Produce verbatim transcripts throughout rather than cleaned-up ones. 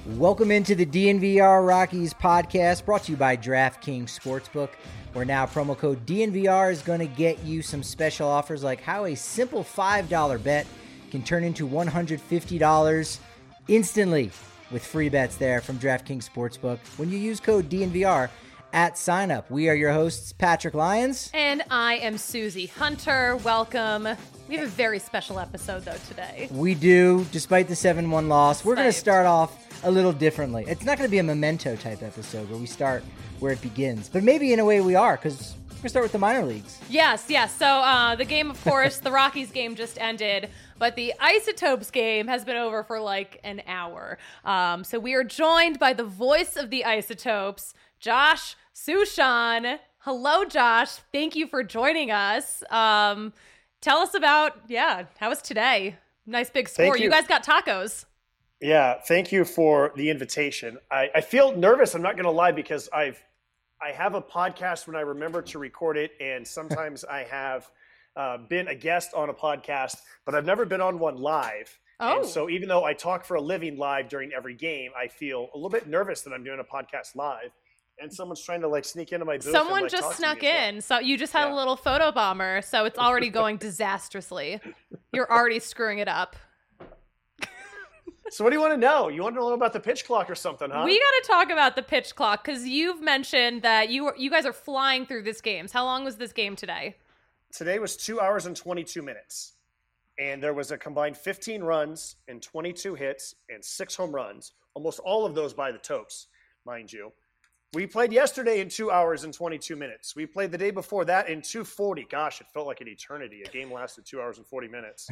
Welcome into the D N V R Rockies podcast, brought to you by DraftKings Sportsbook, where now promo code D N V R is going to get you some special offers like how a simple five dollar bet can turn into one hundred fifty dollars instantly with free bets there from DraftKings Sportsbook when you use code D N V R at sign up. We are your hosts, Patrick Lyons. And I am Susie Hunter. Welcome. We have a very special episode, though, today. We do, despite the seven one loss. We're going to start off a little differently. It's not going to be a memento type episode where we start where it begins, but maybe in a way we are, because we're going to start with the minor leagues. Yes, yes. So uh, the game, of course, the Rockies game just ended, but the Isotopes game has been over for like an hour. Um, so we are joined by the voice of the Isotopes, Josh Suchon. Hello, Josh. Thank you for joining us. Um, tell us about, yeah, how was today? Nice big score. Thank you. You guys got tacos. Yeah, thank you for the invitation. I, I feel nervous, I'm not going to lie, because I've I have a podcast when I remember to record it, and sometimes I have uh, been a guest on a podcast, but I've never been on one live. Oh. And so even though I talk for a living live during every game, I feel a little bit nervous that I'm doing a podcast live, and someone's trying to like sneak into my booth. Someone and, like, just talk to snuck me as well. in. So you just had Yeah. a little photo bomber. So it's already going disastrously. You're already screwing it up. So what do you want to know? You want to know about the pitch clock or something, huh? We got to talk about the pitch clock because you've mentioned that you were, you guys are flying through this game. How long was this game today? Today was two hours and twenty-two minutes. And there was a combined fifteen runs and twenty-two hits and six home runs, almost all of those by the Topes, mind you. We played yesterday in two hours and twenty-two minutes. We played the day before that in two forty. Gosh, it felt like an eternity. A game lasted two hours and forty minutes.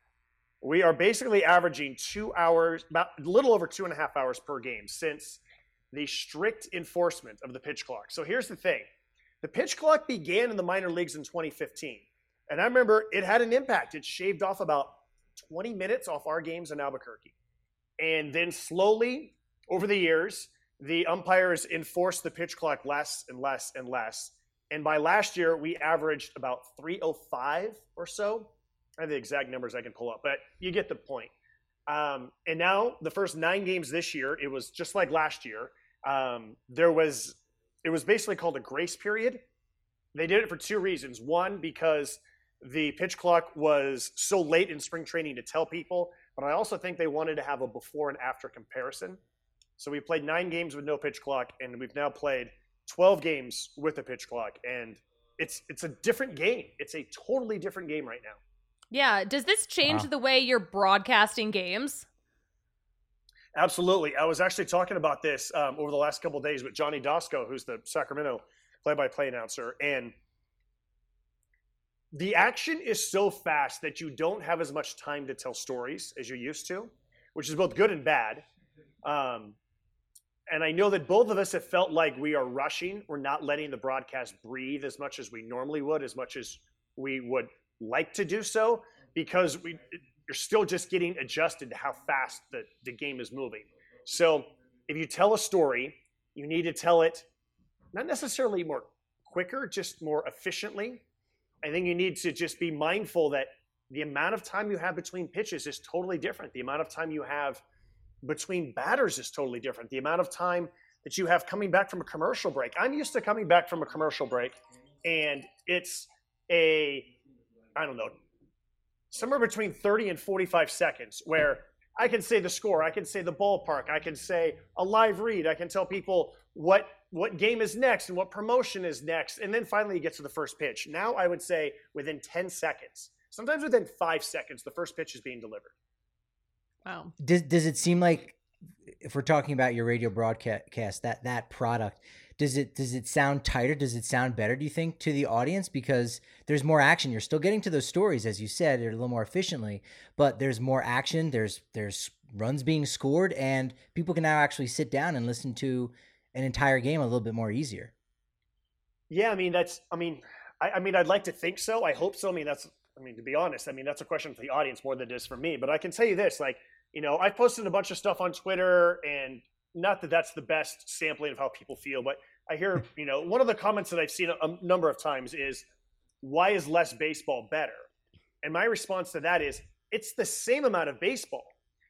We are basically averaging two hours, about a little over two and a half hours per game since the strict enforcement of the pitch clock. So here's the thing. The pitch clock began in the minor leagues in twenty fifteen. And I remember it had an impact. It shaved off about twenty minutes off our games in Albuquerque. And then slowly, over the years, the umpires enforced the pitch clock less and less and less. And by last year, we averaged about three oh five or so. I have the exact numbers I can pull up, but you get the point. Um, and now the first nine games this year, it was just like last year. Um, there was, it was basically called a grace period. They did it for two reasons. One, because the pitch clock was so late in spring training to tell people, but I also think they wanted to have a before and after comparison. So we played nine games with no pitch clock, and we've now played twelve games with a pitch clock, and it's it's a different game. It's a totally different game right now. Yeah. Does this change Wow. the way you're broadcasting games? Absolutely. I was actually talking about this um, over the last couple of days with Johnny Dosco, who's the Sacramento play-by-play announcer, and the action is so fast that you don't have as much time to tell stories as you used to, which is both good and bad. Um, and I know that both of us have felt like we are rushing. We're not letting the broadcast breathe as much as we normally would, as much as we would like to do so, because we you're still just getting adjusted to how fast the, the game is moving. So if you tell a story, you need to tell it not necessarily more quicker, just more efficiently. I think you need to just be mindful that the amount of time you have between pitches is totally different. The amount of time you have between batters is totally different. The amount of time that you have coming back from a commercial break. I'm used to coming back from a commercial break, and it's a I don't know, somewhere between thirty and forty-five seconds where I can say the score, I can say the ballpark, I can say a live read, I can tell people what what game is next and what promotion is next, and then finally you get to the first pitch. Now I would say within ten seconds, sometimes within five seconds, the first pitch is being delivered. Wow. Does does it seem like, if we're talking about your radio broadcast, that that product, does it does it sound tighter? Does it sound better, do you think, to the audience? Because there's more action. You're still getting to those stories, as you said, a little more efficiently, but there's more action. There's there's runs being scored, and people can now actually sit down and listen to an entire game a little bit more easier. Yeah, I mean that's I mean I, I mean I'd like to think so. I hope so. I mean that's I mean to be honest, I mean that's a question for the audience more than it is for me. But I can tell you this, like, you know, I've posted a bunch of stuff on Twitter, and not that that's the best sampling of how people feel, but I hear, you know, one of the comments that I've seen a, a number of times is, why is less baseball better? And my response to that is, it's the same amount of baseball.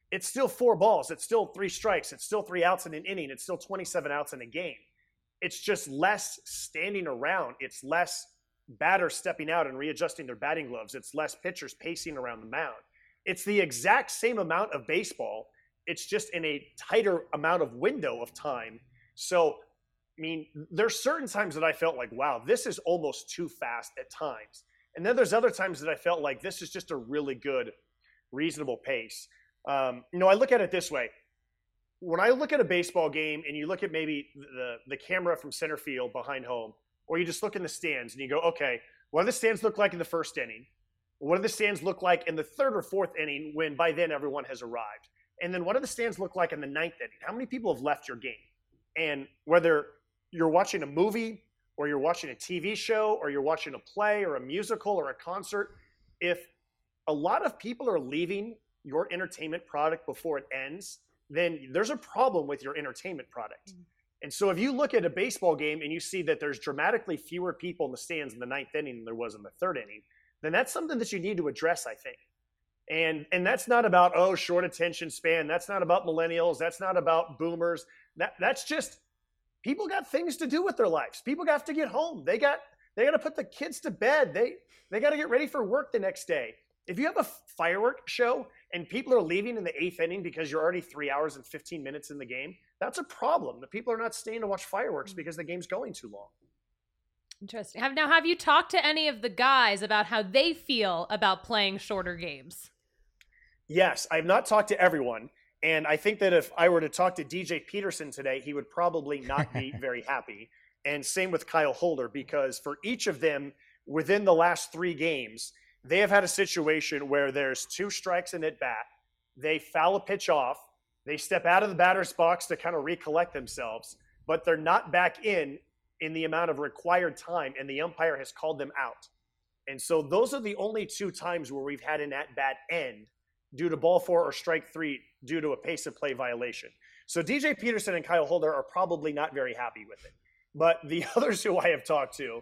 it's still four balls. It's still three strikes. It's still three outs in an inning. It's still twenty-seven outs in a game. It's just less standing around. It's less batters stepping out and readjusting their batting gloves. It's less pitchers pacing around the mound. It's the exact same amount of baseball. It's just in a tighter amount of window of time. So, I mean, there's certain times that I felt like, wow, this is almost too fast at times. And then there's other times that I felt like this is just a really good, reasonable pace. Um, you know, I look at it this way. When I look at a baseball game and you look at maybe the, the camera from center field behind home, or you just look in the stands and you go, okay, what do the stands look like in the first inning? What do the stands look like in the third or fourth inning when by then everyone has arrived? And then what do the stands look like in the ninth inning? How many people have left your game? And whether you're watching a movie or you're watching a T V show or you're watching a play or a musical or a concert, if a lot of people are leaving your entertainment product before it ends, then there's a problem with your entertainment product. Mm-hmm. And so if you look at a baseball game and you see that there's dramatically fewer people in the stands in the ninth inning than there was in the third inning, then that's something that you need to address, I think. And and that's not about, oh, short attention span. That's not about millennials. That's not about boomers. That That's just people got things to do with their lives. People got to get home. They got they got to put the kids to bed. They they got to get ready for work the next day. If you have a firework show and people are leaving in the eighth inning because you're already three hours and fifteen minutes in the game, that's a problem. The people are not staying to watch fireworks because the game's going too long. Interesting. Have, now, have you talked to any of the guys about how they feel about playing shorter games? Yes, I have not talked to everyone. And I think that if I were to talk to D J Peterson today, he would probably not be very happy. And same with Kyle Holder, because for each of them within the last three games, they have had a situation where there's two strikes in at bat. They foul a pitch off. They step out of the batter's box to kind of recollect themselves, but they're not back in in the amount of required time, and the umpire has called them out. And so those are the only two times where we've had an at-bat end due to ball four or strike three due to a pace of play violation. So D J Peterson and Kyle Holder are probably not very happy with it. But the others who I have talked to,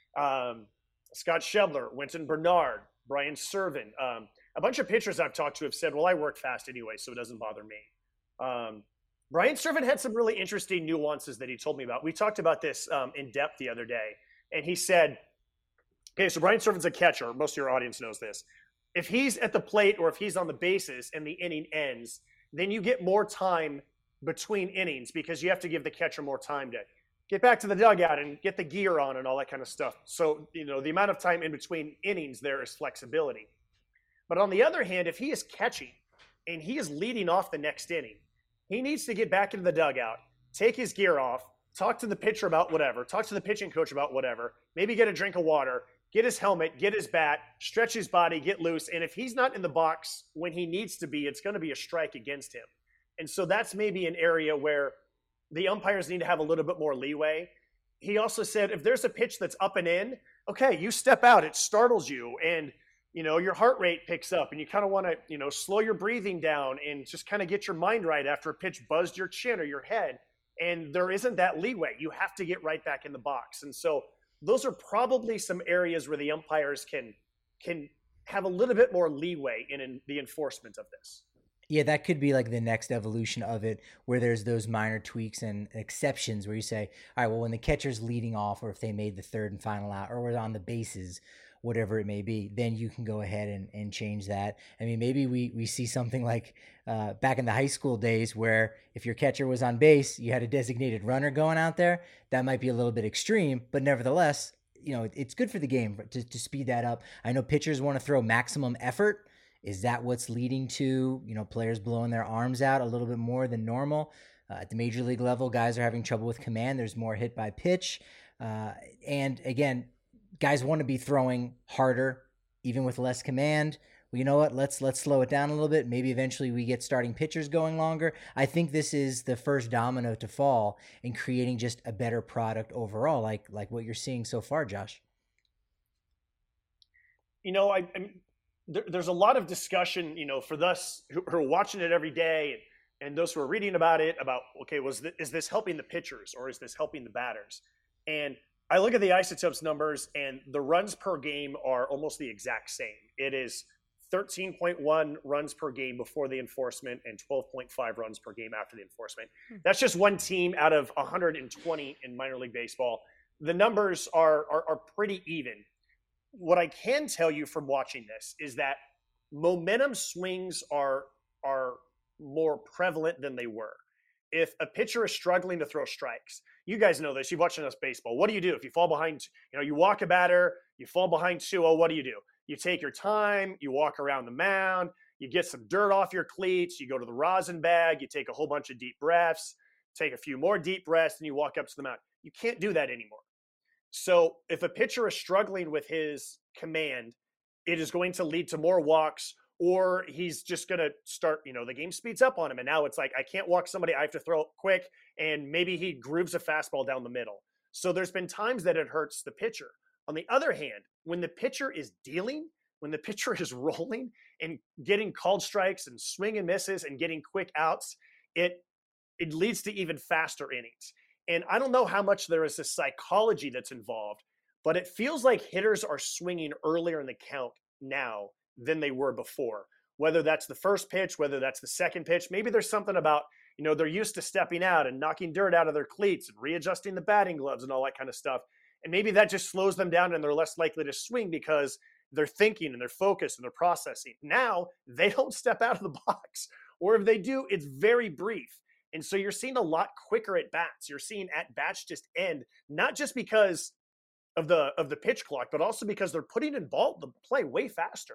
um, Scott Schebler, Winton Bernard, Brian Serven, um, a bunch of pitchers I've talked to have said, well, I work fast anyway, so it doesn't bother me. Um, Brian Serven had some really interesting nuances that he told me about. We talked about this um, in depth the other day, and he said, okay, so Brian Serven's a catcher. Most of your audience knows this. If he's at the plate or if he's on the bases and the inning ends, then you get more time between innings because you have to give the catcher more time to get back to the dugout and get the gear on and all that kind of stuff. So, you know, the amount of time in between innings there is flexibility. But on the other hand, if he is catching and he is leading off the next inning, he needs to get back into the dugout, take his gear off, talk to the pitcher about whatever, talk to the pitching coach about whatever, maybe get a drink of water, get his helmet, get his bat, stretch his body, get loose. And if he's not in the box when he needs to be, it's going to be a strike against him. And so that's maybe an area where the umpires need to have a little bit more leeway. He also said, if there's a pitch that's up and in, okay, you step out, it startles you, and you know, your heart rate picks up and you kind of want to, you know, slow your breathing down and just kind of get your mind right after a pitch buzzed your chin or your head. And there isn't that leeway. You have to get right back in the box. And so those are probably some areas where the umpires can can have a little bit more leeway in, in the enforcement of this. Yeah, that could be like the next evolution of it, where there's those minor tweaks and exceptions where you say, all right, well, when the catcher's leading off, or if they made the third and final out, or was on the bases, whatever it may be, then you can go ahead and, and change that. I mean, maybe we, we see something like uh, back in the high school days where if your catcher was on base, you had a designated runner going out there. That might be a little bit extreme, but nevertheless, you know, it, it's good for the game to, to speed that up. I know pitchers want to throw maximum effort. Is that what's leading to, you know, players blowing their arms out a little bit more than normal? Uh, at the major league level, guys are having trouble with command. There's more hit by pitch. Uh, and again, guys want to be throwing harder, even with less command. Well, you know what? Let's let's slow it down a little bit. Maybe eventually we get starting pitchers going longer. I think this is the first domino to fall in creating just a better product overall, like like what you're seeing so far, Josh. You know, I, I'm, there, there's a lot of discussion, you know, for us who, who are watching it every day and, and those who are reading about it, about, okay, was this, is this helping the pitchers or is this helping the batters? And I look at the Isotopes numbers, and the runs per game are almost the exact same. It is thirteen point one runs per game before the enforcement and twelve point five runs per game after the enforcement. That's just one team out of one hundred twenty in minor league baseball. The numbers are, are, are pretty even. What I can tell you from watching this is that momentum swings are are more prevalent than they were. If a pitcher is struggling to throw strikes, you guys know this, you've watched enough baseball. What do you do if you fall behind? You know, you walk a batter, you fall behind two oh, what do you do? You take your time, you walk around the mound, you get some dirt off your cleats, you go to the rosin bag, you take a whole bunch of deep breaths, take a few more deep breaths, and you walk up to the mound. You can't do that anymore. So if a pitcher is struggling with his command, it is going to lead to more walks, or he's just going to start, you know, the game speeds up on him. And now it's like, I can't walk somebody, I have to throw it quick. And maybe he grooves a fastball down the middle. So there's been times that it hurts the pitcher. On the other hand, when the pitcher is dealing, when the pitcher is rolling and getting called strikes and swing and misses and getting quick outs, it it leads to even faster innings. And I don't know how much there is a psychology that's involved, but it feels like hitters are swinging earlier in the count now than they were before. Whether that's the first pitch, whether that's the second pitch, maybe there's something about, you know, they're used to stepping out and knocking dirt out of their cleats and readjusting the batting gloves and all that kind of stuff. And maybe that just slows them down and they're less likely to swing because they're thinking and they're focused and they're processing. Now they don't step out of the box, or if they do, it's very brief. And so you're seeing a lot quicker at bats. You're seeing at bats just end, not just because of the of the pitch clock, but also because they're putting in ball the play way faster.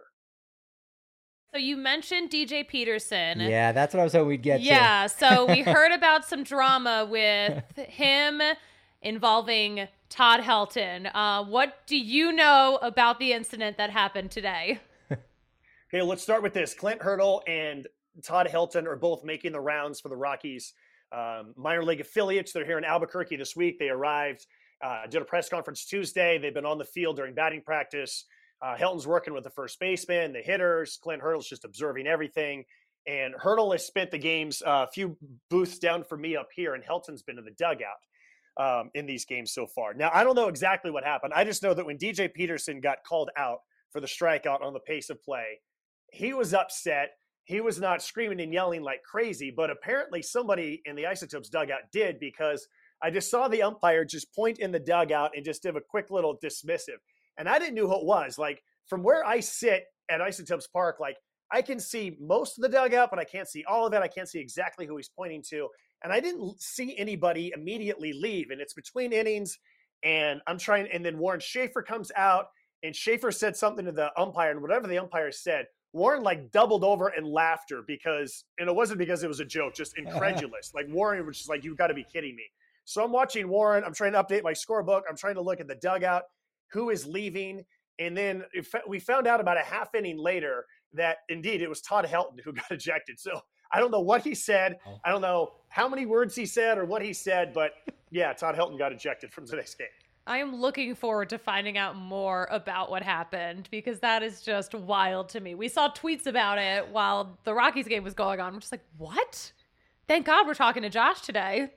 So you mentioned D J Peterson. Yeah, that's what I was hoping we'd get yeah, to. Yeah, so we heard about some drama with him involving Todd Helton. Uh, what do you know about the incident that happened today? Okay, let's start with this. Clint Hurdle and Todd Helton are both making the rounds for the Rockies um, minor league affiliates. They're here in Albuquerque this week. They arrived, uh, did a press conference Tuesday. They've been on the field during batting practice. Uh, Helton's working with the first baseman, the hitters. Clint Hurdle's just observing everything. And Hurdle has spent the games uh, a few booths down from me up here, and Helton's been in the dugout um, in these games so far. Now, I don't know exactly what happened. I just know that when D J Peterson got called out for the strikeout on the pace of play, he was upset. He was not screaming and yelling like crazy, but apparently somebody in the Isotopes dugout did, because I just saw the umpire just point in the dugout and just give a quick little dismissive. And I didn't know who it was. Like, from where I sit at Isotopes Park, like, I can see most of the dugout, but I can't see all of it. I can't see exactly who he's pointing to. And I didn't see anybody immediately leave. And it's between innings, and I'm trying, and then Warren Schaefer comes out, and Schaefer said something to the umpire, and whatever the umpire said, Warren like doubled over in laughter because, and it wasn't because it was a joke, just incredulous. Like, Warren was just like, you've got to be kidding me. So I'm watching Warren. I'm trying to update my scorebook. I'm trying to look at the dugout, who is leaving. And then if we found out about a half inning later that indeed it was Todd Helton who got ejected. So I don't know what he said. I don't know how many words he said or what he said, but yeah, Todd Helton got ejected from today's game. I am looking forward to finding out more about what happened, because that is just wild to me. We saw tweets about it while the Rockies game was going on. I'm just like, what? Thank God we're talking to Josh today.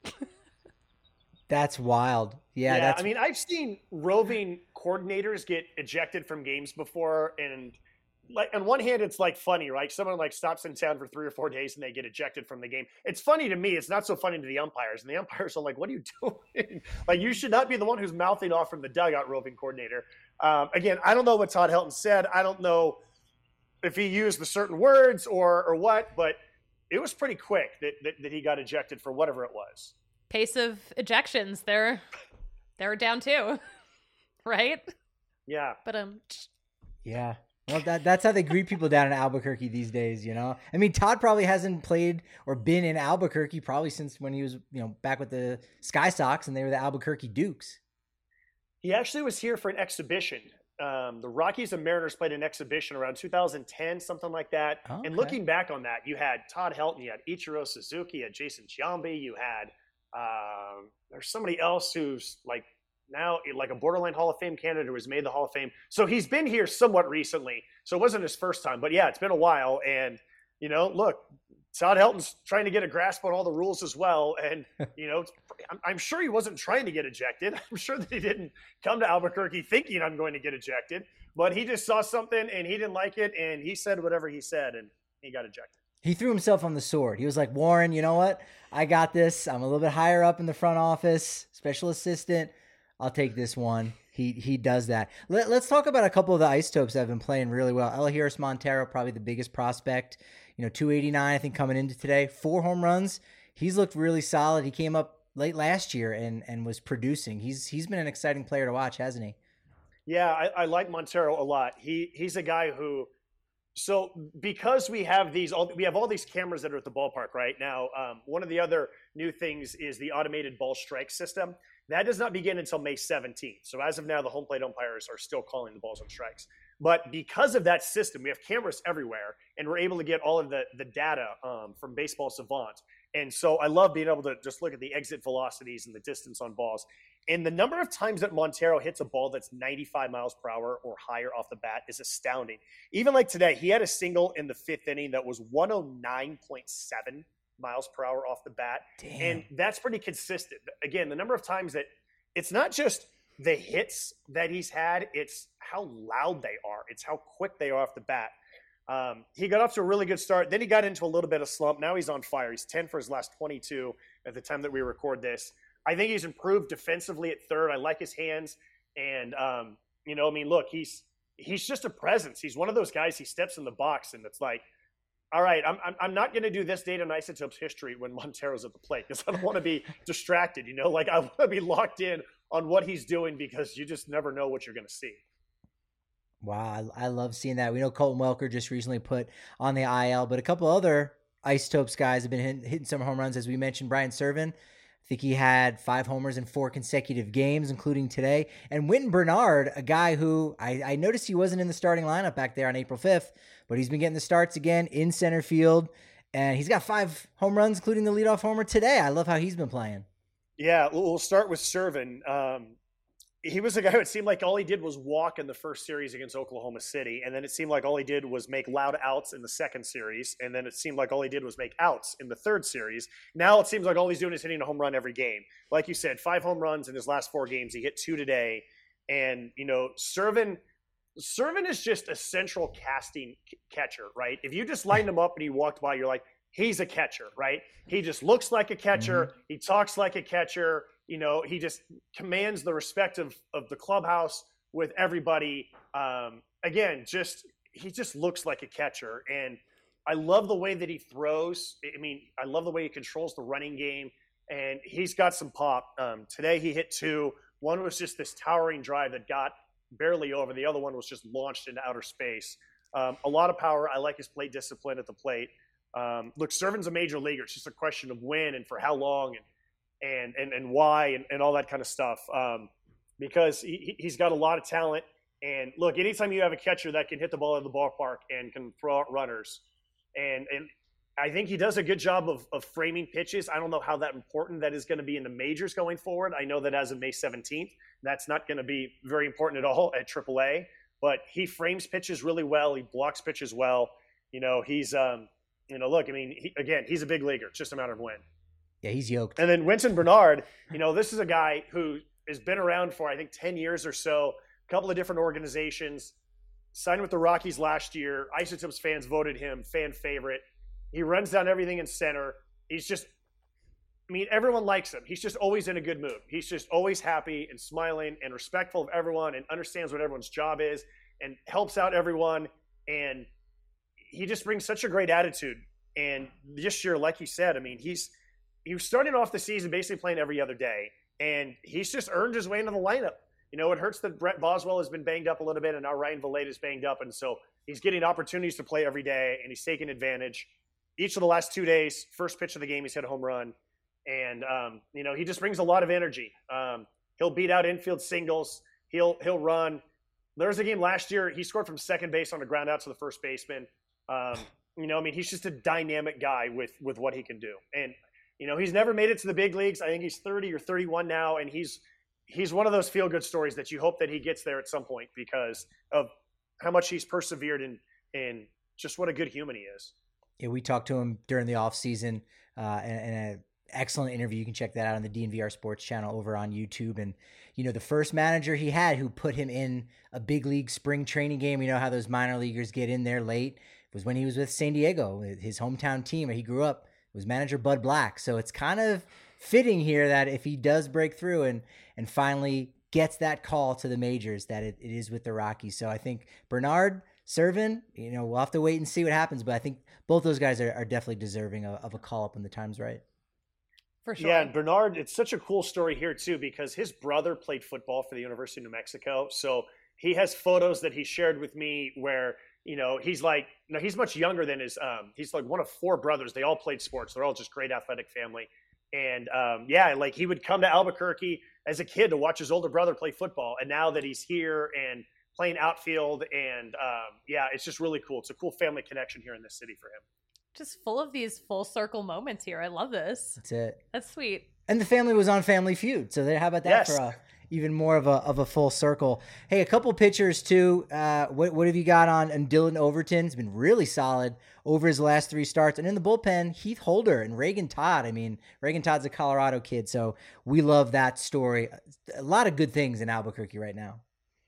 That's wild. Yeah, yeah that's... I mean, I've seen roving coordinators get ejected from games before, and like on one hand, it's like funny, right? Someone like stops in town for three or four days and they get ejected from the game. It's funny to me. It's not so funny to the umpires, and the umpires are like, "What are you doing? Like, you should not be the one who's mouthing off from the dugout, roving coordinator." Um, again, I don't know what Todd Helton said. I don't know if he used the certain words or or what, but it was pretty quick that that, that he got ejected for whatever it was. Pace of ejections, they're they're down too, right? Yeah. But um. Yeah. Well, that that's how they greet people down in Albuquerque these days, you know? I mean, Todd probably hasn't played or been in Albuquerque probably since when he was, you know, back with the Sky Sox and they were the Albuquerque Dukes. He actually was here for an exhibition. Um, the Rockies and Mariners played an exhibition around two thousand ten, something like that. Okay. And looking back on that, you had Todd Helton, you had Ichiro Suzuki, you had Jason Giambi, you had um, there's somebody else who's like now like a borderline Hall of Fame candidate who has made the Hall of Fame. So he's been here somewhat recently. So it wasn't his first time, but yeah, it's been a while. And, you know, look, Todd Helton's trying to get a grasp on all the rules as well. And, you know, I'm, I'm sure he wasn't trying to get ejected. I'm sure that he didn't come to Albuquerque thinking I'm going to get ejected. But he just saw something and he didn't like it. And he said whatever he said and he got ejected. He threw himself on the sword. He was like, Warren, you know what? I got this. I'm a little bit higher up in the front office, special assistant. I'll take this one. He he does that. Let, let's talk about a couple of the Isotopes that have been playing really well. Elehuris Montero, probably the biggest prospect. You know, two eighty-nine, I think, coming into today. Four home runs. He's looked really solid. He came up late last year and and was producing. He's He's been an exciting player to watch, hasn't he? Yeah, I, I like Montero a lot. He He's a guy who – so because we have these all, we have all these cameras that are at the ballpark right now, um, one of the other new things is the automated ball strike system. That does not begin until May seventeenth. So as of now, the home plate umpires are still calling the balls and strikes. But because of that system, we have cameras everywhere, and we're able to get all of the, the data um, from Baseball Savant. And so I love being able to just look at the exit velocities and the distance on balls. And the number of times that Montero hits a ball that's ninety-five miles per hour or higher off the bat is astounding. Even like today, he had a single in the fifth inning that was one oh nine point seven miles per hour off the bat. Damn. And that's pretty consistent. Again, the number of times that it's not just the hits that he's had, it's how loud they are. It's how quick they are off the bat. Um, he got off to a really good start. Then he got into a little bit of slump. Now he's on fire. He's ten for his last twenty-two at the time that we record this. I think he's improved defensively at third. I like his hands. And, um, you know, I mean, look, he's he's just a presence. He's one of those guys, he steps in the box, and it's like, all right, I'm I'm, I'm not going to do this date in Isotopes history when Montero's at the plate because I don't want to be distracted, you know? Like, I want to be locked in on what he's doing because you just never know what you're going to see. Wow, I, I love seeing that. We know Colton Welker just recently put on the I L, but a couple other Isotopes guys have been hitting, hitting some home runs. As we mentioned, Brian Serven, I think he had five homers in four consecutive games, including today. And Wynton Bernard, a guy who I, I noticed he wasn't in the starting lineup back there on April fifth, but he's been getting the starts again in center field. And he's got five home runs, including the leadoff homer today. I love how he's been playing. Yeah, we'll start with Serven. Um, he was a guy who it seemed like all he did was walk in the first series against Oklahoma City, and then it seemed like all he did was make loud outs in the second series, and then it seemed like all he did was make outs in the third series. Now it seems like all he's doing is hitting a home run every game. Like you said, five home runs in his last four games. He hit two today, and, you know, Serven – Serven is just a central casting catcher, right? If you just lined him up and he walked by, you're like, he's a catcher, right? He just looks like a catcher. Mm-hmm. He talks like a catcher. You know, he just commands the respect of, of the clubhouse with everybody. Um, again, just he just looks like a catcher. And I love the way that he throws. I mean, I love the way he controls the running game. And he's got some pop. Um, today he hit two. One was just this towering drive that got barely over. The other one was just launched into outer space. Um, a lot of power. I like his plate discipline at the plate. Um, look, Serven's a major leaguer. It's just a question of when and for how long and and and, and why and, and all that kind of stuff. Um, because he, he's got a lot of talent. And look, anytime you have a catcher that can hit the ball out of the ballpark and can throw out runners, and and I think he does a good job of, of framing pitches. I don't know how that important that is going to be in the majors going forward. I know that as of May seventeenth, that's not going to be very important at all at triple A. But he frames pitches really well. He blocks pitches well. You know, he's um, – You know, look, I mean, he, again, he's a big leaguer. It's just a matter of when. Yeah, he's yoked. And then Wynton Bernard, you know, this is a guy who has been around for, I think, ten years or so, a couple of different organizations, signed with the Rockies last year. Isotopes fans voted him fan favorite. He runs down everything in center. He's just, I mean, everyone likes him. He's just always in a good mood. He's just always happy and smiling and respectful of everyone and understands what everyone's job is and helps out everyone. And he just brings such a great attitude. And this year, like you said, I mean, he's he was starting off the season basically playing every other day, and he's just earned his way into the lineup. You know, it hurts that Brett Boswell has been banged up a little bit, and now Ryan Valade is banged up, and so he's getting opportunities to play every day, and he's taking advantage. Each of the last two days, first pitch of the game, he's hit a home run, and um, you know, he just brings a lot of energy. Um, he'll beat out infield singles. He'll he'll run. There was a game last year he scored from second base on a ground out to the first baseman. Um, you know, I mean, he's just a dynamic guy with with what he can do. And, you know, he's never made it to the big leagues. I think he's thirty or thirty-one now, and he's he's one of those feel-good stories that you hope that he gets there at some point because of how much he's persevered and, and just what a good human he is. Yeah, we talked to him during the offseason uh, in, in an excellent interview. You can check that out on the D N V R Sports channel over on YouTube. And, you know, the first manager he had who put him in a big league spring training game, you know how those minor leaguers get in there late, was when he was with San Diego, his hometown team where he grew up, was manager Bud Black. So it's kind of fitting here that if he does break through and, and finally gets that call to the majors, that it, it is with the Rockies. So I think Bernard, Serven, you know, we'll have to wait and see what happens, but I think both those guys are, are definitely deserving of, of a call up when the time's right. For sure. Yeah, and Bernard, it's such a cool story here too, because his brother played football for the University of New Mexico. So he has photos that he shared with me where, you know, he's like, you know, he's much younger than his, um, he's like one of four brothers. They all played sports. They're all just great athletic family. And um, yeah, like he would come to Albuquerque as a kid to watch his older brother play football. And now that he's here and playing outfield, and um, yeah, it's just really cool. It's a cool family connection here in this city for him. Just full of these full circle moments here. I love this. That's it. That's sweet. And the family was on Family Feud, so there, how about that Yes. for a, even more of a of a full circle? Hey, a couple pitchers too. Uh, what what have you got on? And Dylan Overton's been really solid over his last three starts, and in the bullpen, Heath Holder and Reagan Todd. I mean, Reagan Todd's a Colorado kid, so we love that story. A lot of good things in Albuquerque right now.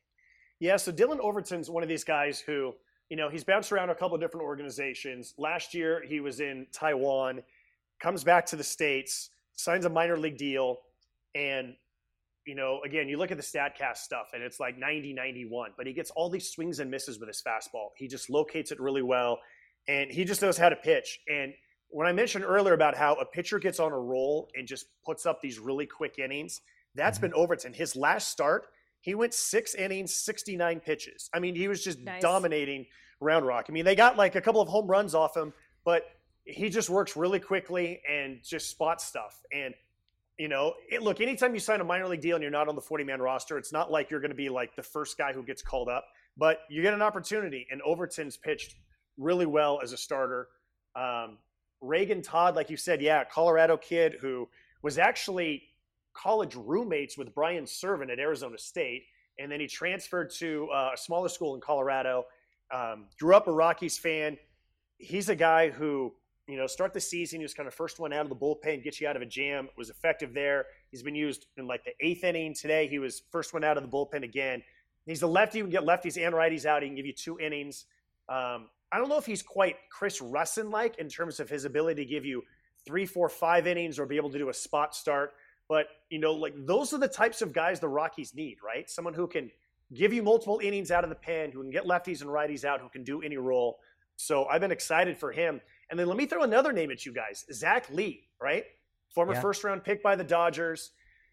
Yeah, so Dylan Overton's one of these guys who, you know, he's bounced around a couple of different organizations. Last year, he was in Taiwan, comes back to the States, signs a minor league deal. And, you know, again, you look at the StatCast stuff and it's like ninety, ninety-one, but he gets all these swings and misses with his fastball. He just locates it really well, and he just knows how to pitch. And when I mentioned earlier about how a pitcher gets on a roll and just puts up these really quick innings, that's mm-hmm. been Overton. His last start, he went six innings, sixty-nine pitches. I mean, he was just nice. dominating Round Rock. I mean, they got like a couple of home runs off him, but he just works really quickly and just spots stuff. And, you know, it, look, anytime you sign a minor league deal and you're not on the forty-man roster, it's not like you're going to be like the first guy who gets called up, but you get an opportunity. And Overton's pitched really well as a starter. Um, Reagan Todd, like you said, yeah, Colorado kid who was actually – college roommates with Brian Serven at Arizona State, and then he transferred to uh, a smaller school in Colorado. Um, grew up a Rockies fan. He's a guy who, you know, start the season, he was kind of first one out of the bullpen, get you out of a jam. Was effective there. He's been used in like the eighth inning today. He was first one out of the bullpen again. He's a lefty. You can get lefties and righties out. He can give you two innings. Um, I don't know if he's quite Chris Russin-like in terms of his ability to give you three, four, five innings or be able to do a spot start. But, you know, like those are the types of guys the Rockies need, right? Someone who can give you multiple innings out of the pen, who can get lefties and righties out, who can do any role. So I've been excited for him. And then let me throw another name at you guys, Zach Lee, right? Former yeah. first round pick by the Dodgers.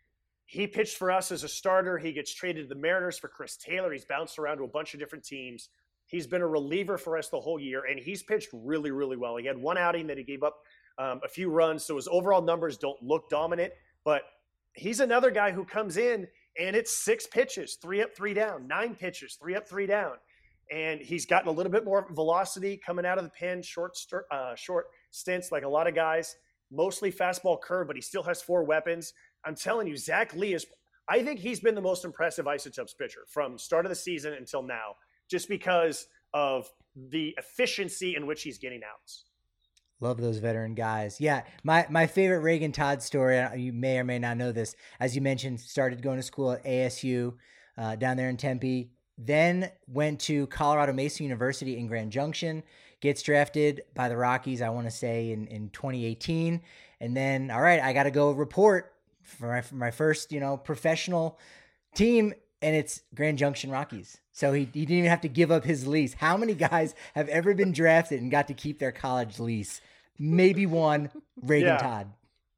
He pitched for us as a starter. He gets traded to the Mariners for Chris Taylor. He's bounced around to a bunch of different teams. He's been a reliever for us the whole year, and he's pitched really, really well. He had one outing that he gave up um, a few runs, so his overall numbers don't look dominant. But he's another guy who comes in and it's six pitches, three up, three down, nine pitches, three up, three down. And he's gotten a little bit more velocity coming out of the pen, short, uh, short stints like a lot of guys, mostly fastball curve, but he still has four weapons. I'm telling you, Zach Lee is, I think he's been the most impressive Isotopes pitcher from start of the season until now, just because of the efficiency in which he's getting outs. Love those veteran guys. Yeah, my my favorite Reagan Todd story, you may or may not know this, as you mentioned, started going to school at A S U uh, down there in Tempe, then went to Colorado Mesa University in Grand Junction, gets drafted by the Rockies, I want to say, in, in twenty eighteen. And then, all right, I got to go report for my, for my first, you know, professional team, and it's Grand Junction Rockies. So he, he didn't even have to give up his lease. How many guys have ever been drafted and got to keep their college lease? Maybe one, Reagan yeah. Todd.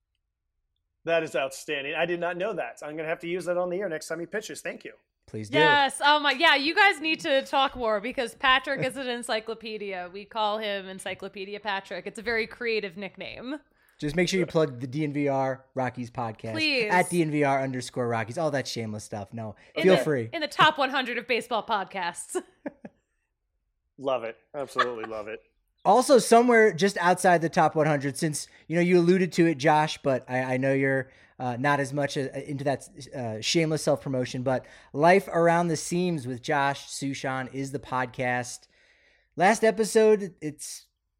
That is outstanding. I did not know that. So I'm going to have to use that on the air next time he pitches. Thank you. Please do. Yes. Oh my. Yeah. You guys need to talk more because Patrick is an encyclopedia. We call him Encyclopedia Patrick. It's a very creative nickname. Just make sure you plug the D N V R Rockies podcast. Please. At D N V R underscore Rockies. All that shameless stuff. No, in feel the, free. In the top one hundred of baseball podcasts. Love it. Absolutely love it. Also, somewhere just outside the top one hundred, since, you know, you alluded to it, Josh, but I, I know you're uh, not as much as, into that uh, shameless self-promotion, but Life Around the Seams with Josh Sushan is the podcast. Last episode, it's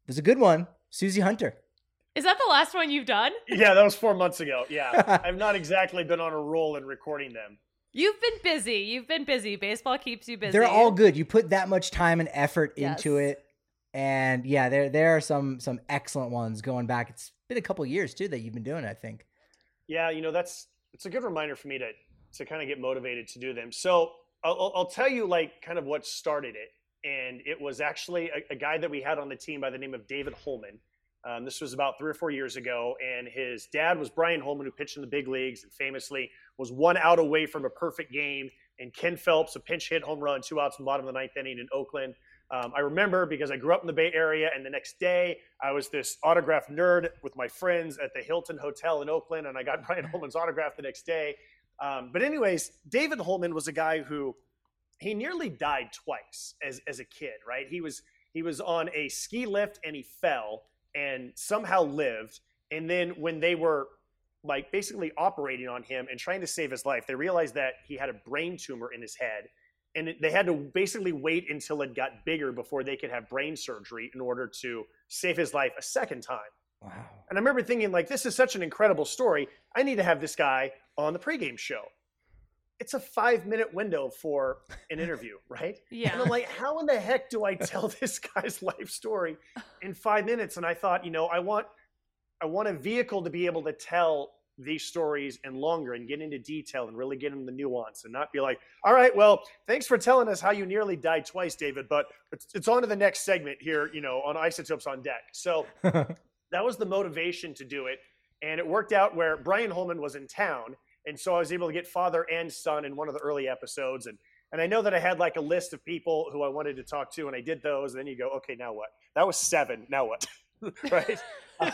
There's a good one. Susie Hunter. Is that the last one you've done? Yeah, that was four months ago. Yeah. I've not exactly been on a roll in recording them. You've been busy. You've been busy. Baseball keeps you busy. They're all good. You put that much time and effort Yes. into it. And yeah, there there are some some excellent ones going back. It's been a couple years too that you've been doing it, I think. Yeah, you know, that's it's a good reminder for me to to kind of get motivated to do them. So I'll, I'll tell you like kind of what started it. And it was actually a, a guy that we had on the team by the name of David Holman. Um, this was about three or four years ago, and his dad was Brian Holman, who pitched in the big leagues and famously was one out away from a perfect game. And Ken Phelps, a pinch hit home run, two outs in the bottom of the ninth inning in Oakland. Um, I remember because I grew up in the Bay Area, and the next day I was this autograph nerd with my friends at the Hilton Hotel in Oakland, and I got Brian Holman's autograph the next day. Um, but anyways, David Holman was a guy who he nearly died twice as, as a kid, right? He was he was on a ski lift and he fell and somehow lived. And then when they were like basically operating on him and trying to save his life, they realized that he had a brain tumor in his head. And it, they had to basically wait until it got bigger before they could have brain surgery in order to save his life a second time. Wow. And I remember thinking, like, this is such an incredible story. I need to have this guy on the pregame show. It's a five minute window for an interview, right? Yeah. And I'm like, how in the heck do I tell this guy's life story in five minutes? And I thought, you know, I want, I want a vehicle to be able to tell these stories and longer and get into detail and really get into the nuance and not be like, all right, well, thanks for telling us how you nearly died twice, David, but it's, it's on to the next segment here, you know, on Isotopes on Deck. So that was the motivation to do it. And it worked out where Brian Holman was in town. And so I was able to get father and son in one of the early episodes. And and I know that I had like a list of people who I wanted to talk to, and I did those. And then you go, okay, now what? That was seven. Now what? Right? uh,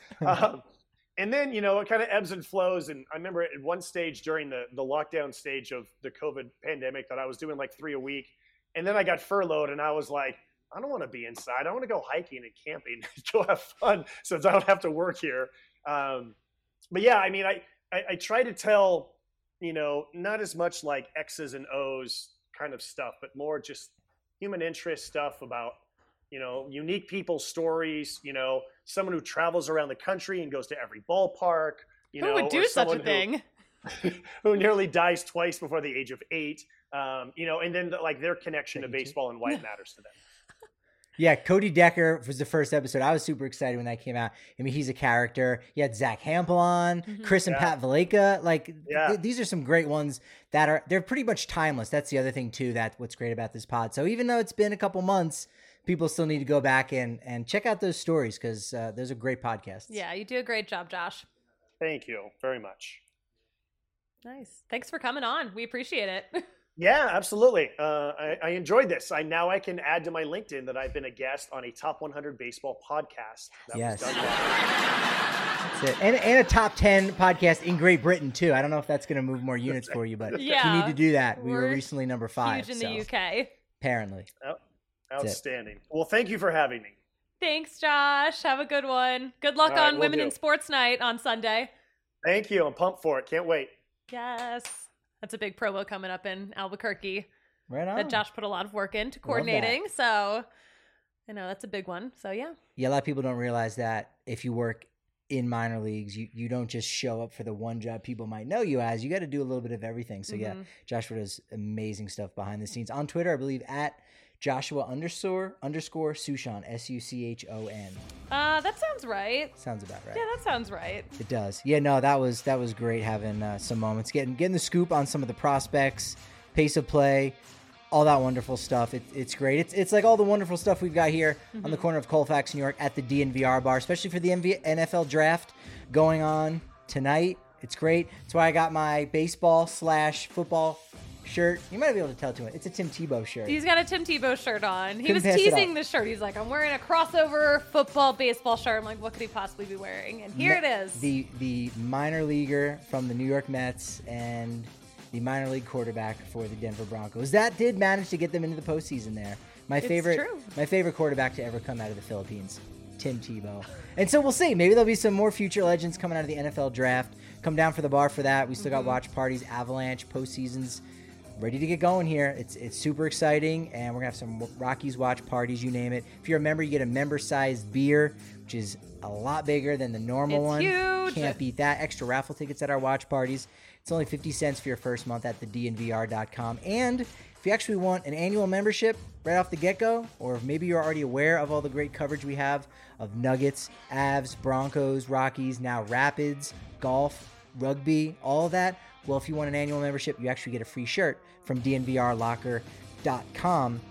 um, and then, you know, it kind of ebbs and flows. And I remember at one stage during the, the lockdown stage of the COVID pandemic that I was doing like three a week. And then I got furloughed and I was like, I don't want to be inside. I want to go hiking and camping, go have fun since I don't have to work here. Um, but yeah, I mean, I, I, I try to tell, you know, not as much like X's and O's kind of stuff, but more just human interest stuff about, you know, unique people's stories, you know, someone who travels around the country and goes to every ballpark, you Who know, would do or such a someone thing? Who, who nearly dies twice before the age of eight, um, you know, and then like their connection to baseball and why it matters to them. Yeah, Cody Decker was the first episode. I was super excited when that came out. I mean, he's a character. You had Zach Hampel on, Mhm. Chris and Yeah. Pat Valleca. Like, Yeah. th- these are some great ones that are, they're pretty much timeless. That's the other thing, too, that's what's great about this pod. So even though it's been a couple months, people still need to go back and, and check out those stories because uh, those are great podcasts. Yeah, you do a great job, Josh. Thank you very much. Nice. Thanks for coming on. We appreciate it. Yeah, absolutely. Uh, I, I enjoyed this. I now I can add to my LinkedIn that I've been a guest on a top one hundred baseball podcast. That Yes. was done by- That's it. And, and a top ten podcast in Great Britain, too. I don't know if that's going to move more units for you, but Yeah. you need to do that. We were We're recently number five. Huge in the so, U K. apparently. Oh, That's it. outstanding. Well, thank you for having me. Thanks, Josh. Have a good one. Good luck All right, on will Women do. in Sports Night on Sunday. Thank you. I'm pumped for it. Can't wait. Yes. That's a big promo coming up in Albuquerque Right on. that Josh put a lot of work into coordinating. So I know that's a big one. So yeah. Yeah, a lot of people don't realize that if you work in minor leagues, you, you don't just show up for the one job people might know you as. You got to do a little bit of everything. So yeah, Mhm. Joshua does amazing stuff behind the scenes. On Twitter, I believe at Joshua underscore underscore Suchon, S U C H O N. Uh, that sounds right. Sounds about right. Yeah, that sounds right. It does. Yeah, no, that was that was great having uh, some moments, getting getting the scoop on some of the prospects, pace of play, all that wonderful stuff. It, it's great. It's it's like all the wonderful stuff we've got here on the corner of Colfax, New York, at the D N V R bar, especially for the N F L draft going on tonight. It's great. That's why I got my baseball slash football shirt. You might be able to tell to it. It's a Tim Tebow shirt. He's got a Tim Tebow shirt on. He Couldn't was pass it teasing up. the shirt. He's like, I'm wearing a crossover football baseball shirt. I'm like, what could he possibly be wearing? And here it is. The the minor leaguer from the New York Mets and the minor league quarterback for the Denver Broncos. That did manage to get them into the postseason there. My It's favorite true. my favorite quarterback to ever come out of the Philippines, Tim Tebow. And so we'll see. Maybe there'll be some more future legends coming out of the N F L draft. Come down for the bar for that. We still got Mm-hmm. watch parties, Avalanche, postseasons. ready to get going here. It's it's super exciting, and we're going to have some Rockies watch parties, you name it. If you're a member, you get a member-sized beer, which is a lot bigger than the normal It's one. huge. Can't beat that. Extra raffle tickets at our watch parties. It's only fifty cents for your first month at the D N V R dot com. And if you actually want an annual membership right off the get-go, or maybe you're already aware of all the great coverage we have of Nuggets, Avs, Broncos, Rockies, now Rapids, golf, rugby, all of that, well, if you want an annual membership, you actually get a free shirt from D N V R locker dot com.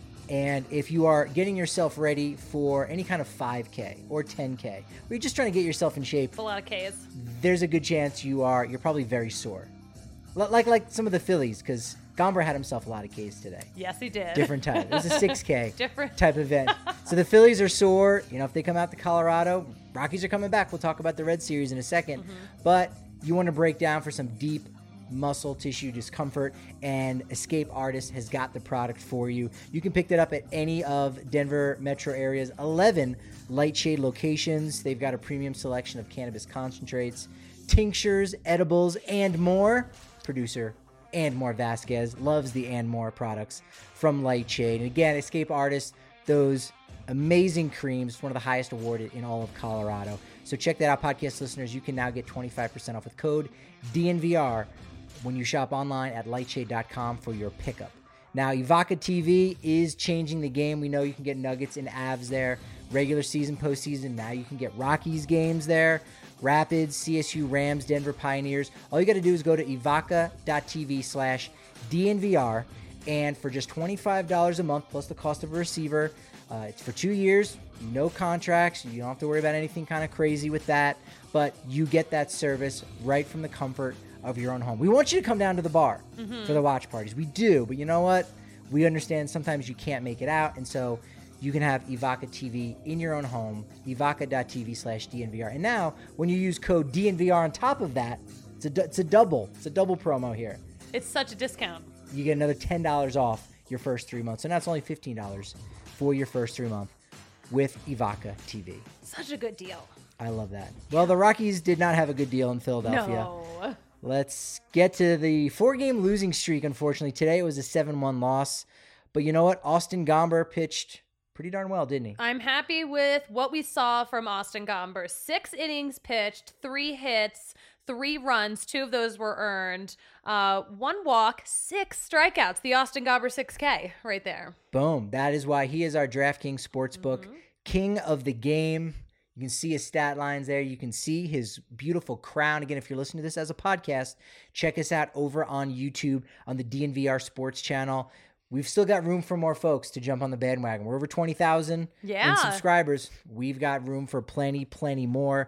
And if you are getting yourself ready for any kind of five K or ten K, or you're just trying to get yourself in shape, It's a lot of K's. there's a good chance you are you're probably very sore. L- like like some of the Phillies, because Gomber had himself a lot of K's today. Yes, he did. Different type. It was a six K Different. type event. So the Phillies are sore. You know, if they come out to Colorado, Rockies are coming back. We'll talk about the Red Series in a second. Mm-hmm. But you want to break down for some deep muscle tissue discomfort, and Escape Artist has got the product for you. You can pick that up at any of Denver metro area's eleven Lightshade locations. They've got a premium selection of cannabis concentrates, tinctures, edibles, and more. Producer and more Vasquez loves the and more products from Lightshade. And again, Escape Artist, those amazing creams, one of the highest awarded in all of Colorado. So check that out, podcast listeners. You can now get twenty-five percent off with code D N V R when you shop online at lightshade dot com for your pickup. Now, Evoca T V is changing the game. We know you can get Nuggets and Avs there. Regular season, postseason, now you can get Rockies games there. Rapids, C S U, Rams, Denver Pioneers. All you got to do is go to evoca dot t v slash D N V R, and for just twenty-five dollars a month plus the cost of a receiver, uh, it's for two years, no contracts. You don't have to worry about anything kind of crazy with that, but you get that service right from the comfort of your own home. We want you to come down to the bar Mm-hmm. for the watch parties. We do, but you know what? We understand sometimes you can't make it out, and so you can have Evoca T V in your own home, evoca dot t v slash D N V R. And now, when you use code D N V R on top of that, it's a, du- it's a double. It's a double promo here. It's such a discount. You get another ten dollars off your first three months. So now it's only fifteen dollars for your first three months with Evoca T V. Such a good deal. I love that. Well, the Rockies did not have a good deal in Philadelphia. No. Let's get to the four-game losing streak, unfortunately. Today it was a seven one loss. But you know what? Austin Gomber pitched pretty darn well, didn't he? I'm happy with what we saw from Austin Gomber. Six innings pitched, three hits, three runs. Two of those were earned. Uh, one walk, six strikeouts. The Austin Gomber six K right there. Boom. That is why he is our DraftKings Sportsbook Mm-hmm. king of the game. You can see his stat lines there. You can see his beautiful crown. Again, if you're listening to this as a podcast, check us out over on YouTube on the D N V R Sports channel. We've still got room for more folks to jump on the bandwagon. We're over twenty thousand Yeah. in subscribers. We've got room for plenty, plenty more.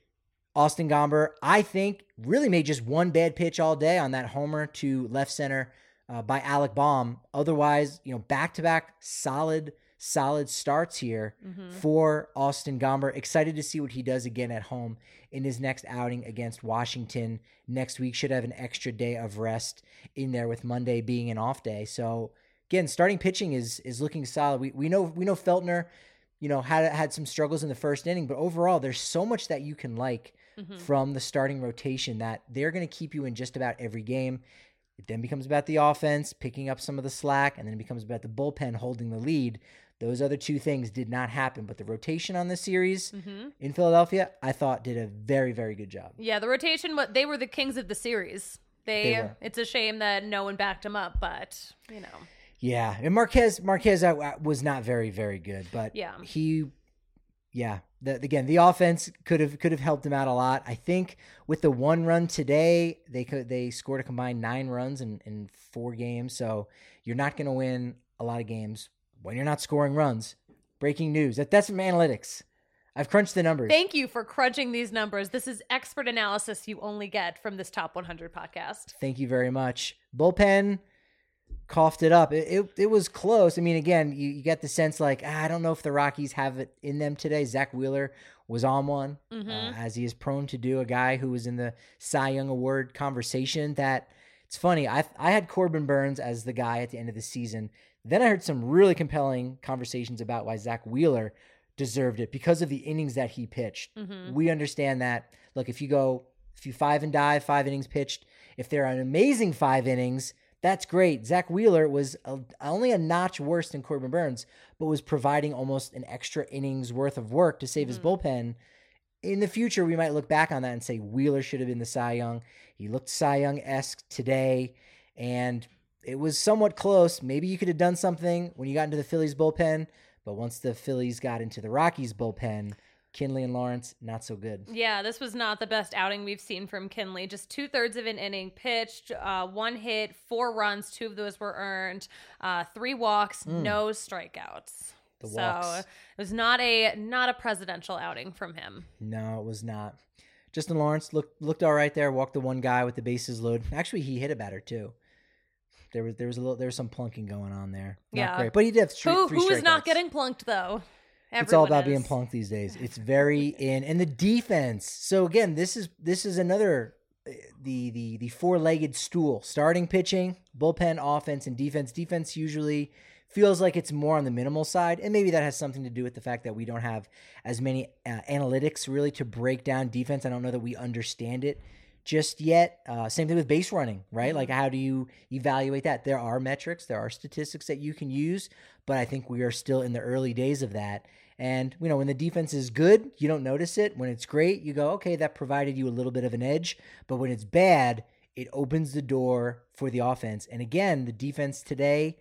Austin Gomber, I think, really made just one bad pitch all day on that homer to left center uh, by Alec Baum. Otherwise, you know, back-to-back solid, solid starts here Mm-hmm. for Austin Gomber. Excited to see what he does again at home in his next outing against Washington next week. Should have an extra day of rest in there with Monday being an off day. So again, starting pitching is is looking solid. We we know we know Feltner, you know, had had some struggles in the first inning, but overall there's so much that you can like Mm-hmm. from the starting rotation that they're going to keep you in just about every game. It then becomes about the offense picking up some of the slack, and then it becomes about the bullpen holding the lead. Those other two things did not happen, but the rotation on this series Mm-hmm. in Philadelphia, I thought did a very, very good job. Yeah, the rotation, what they were the kings of the series. They, They were. It's a shame that no one backed them up, but you know. Yeah, and Marquez Marquez uh, uh, was not very, very good, but Yeah. he, yeah, the, again the offense could have could have helped him out a lot. I think with the one run today, they could they scored a combined nine runs in, in four games. So you're not going to win a lot of games when you're not scoring runs. Breaking news. That that's from analytics. I've crunched the numbers. Thank you for crunching these numbers. This is expert analysis you only get from this Top one hundred podcast. Thank you very much. Bullpen coughed it up. It it, it was close. I mean, again, you, you get the sense like, ah, I don't know if the Rockies have it in them today. Zach Wheeler was on one, Mhm. uh, as he is prone to do, a guy who was in the Cy Young Award conversation. That it's funny. I I had Corbin Burns as the guy at the end of the season. Then I heard some really compelling conversations about why Zach Wheeler deserved it because of the innings that he pitched. Mhm. We understand that. Look, if you go, if you five and dive, five innings pitched, if they're an amazing five innings, That's great. Zach Wheeler was a, only a notch worse than Corbin Burns, but was providing almost an extra innings worth of work to save mm-hmm. his bullpen. In the future, we might look back on that and say Wheeler should have been the Cy Young. He looked Cy Young-esque today, and it was somewhat close. Maybe you could have done something when you got into the Phillies bullpen, but once the Phillies got into the Rockies bullpen, Kinley and Lawrence, not so good. Yeah, this was not the best outing we've seen from Kinley. Just two-thirds of an inning pitched, uh, one hit, four runs, two of those were earned, uh, three walks, mm. no strikeouts. The so walks. It was not a not a presidential outing from him. No, it was not. Justin Lawrence looked looked all right there. Walked the one guy with the bases loaded. Actually, he hit a batter too. There was there was a little there was some plunking going on there. Not yeah, great, but he did have three, who three who strikeouts. is not getting plunked though? Everyone it's all about is. being plunked these days. It's very in and the defense. So again, this is this is another the the the four-legged stool. Starting pitching, bullpen, offense, and defense. Defense usually feels like it's more on the minimal side, and maybe that has something to do with the fact that we don't have as many uh, analytics really to break down defense. I don't know that we understand it just yet. Uh, same thing with base running, right? Like, how do you evaluate that? There are metrics, there are statistics that you can use, but I think we are still in the early days of that. And, you know, when the defense is good, you don't notice it. When it's great, you go, okay, that provided you a little bit of an edge. But when it's bad, it opens the door for the offense. And again, the defense today,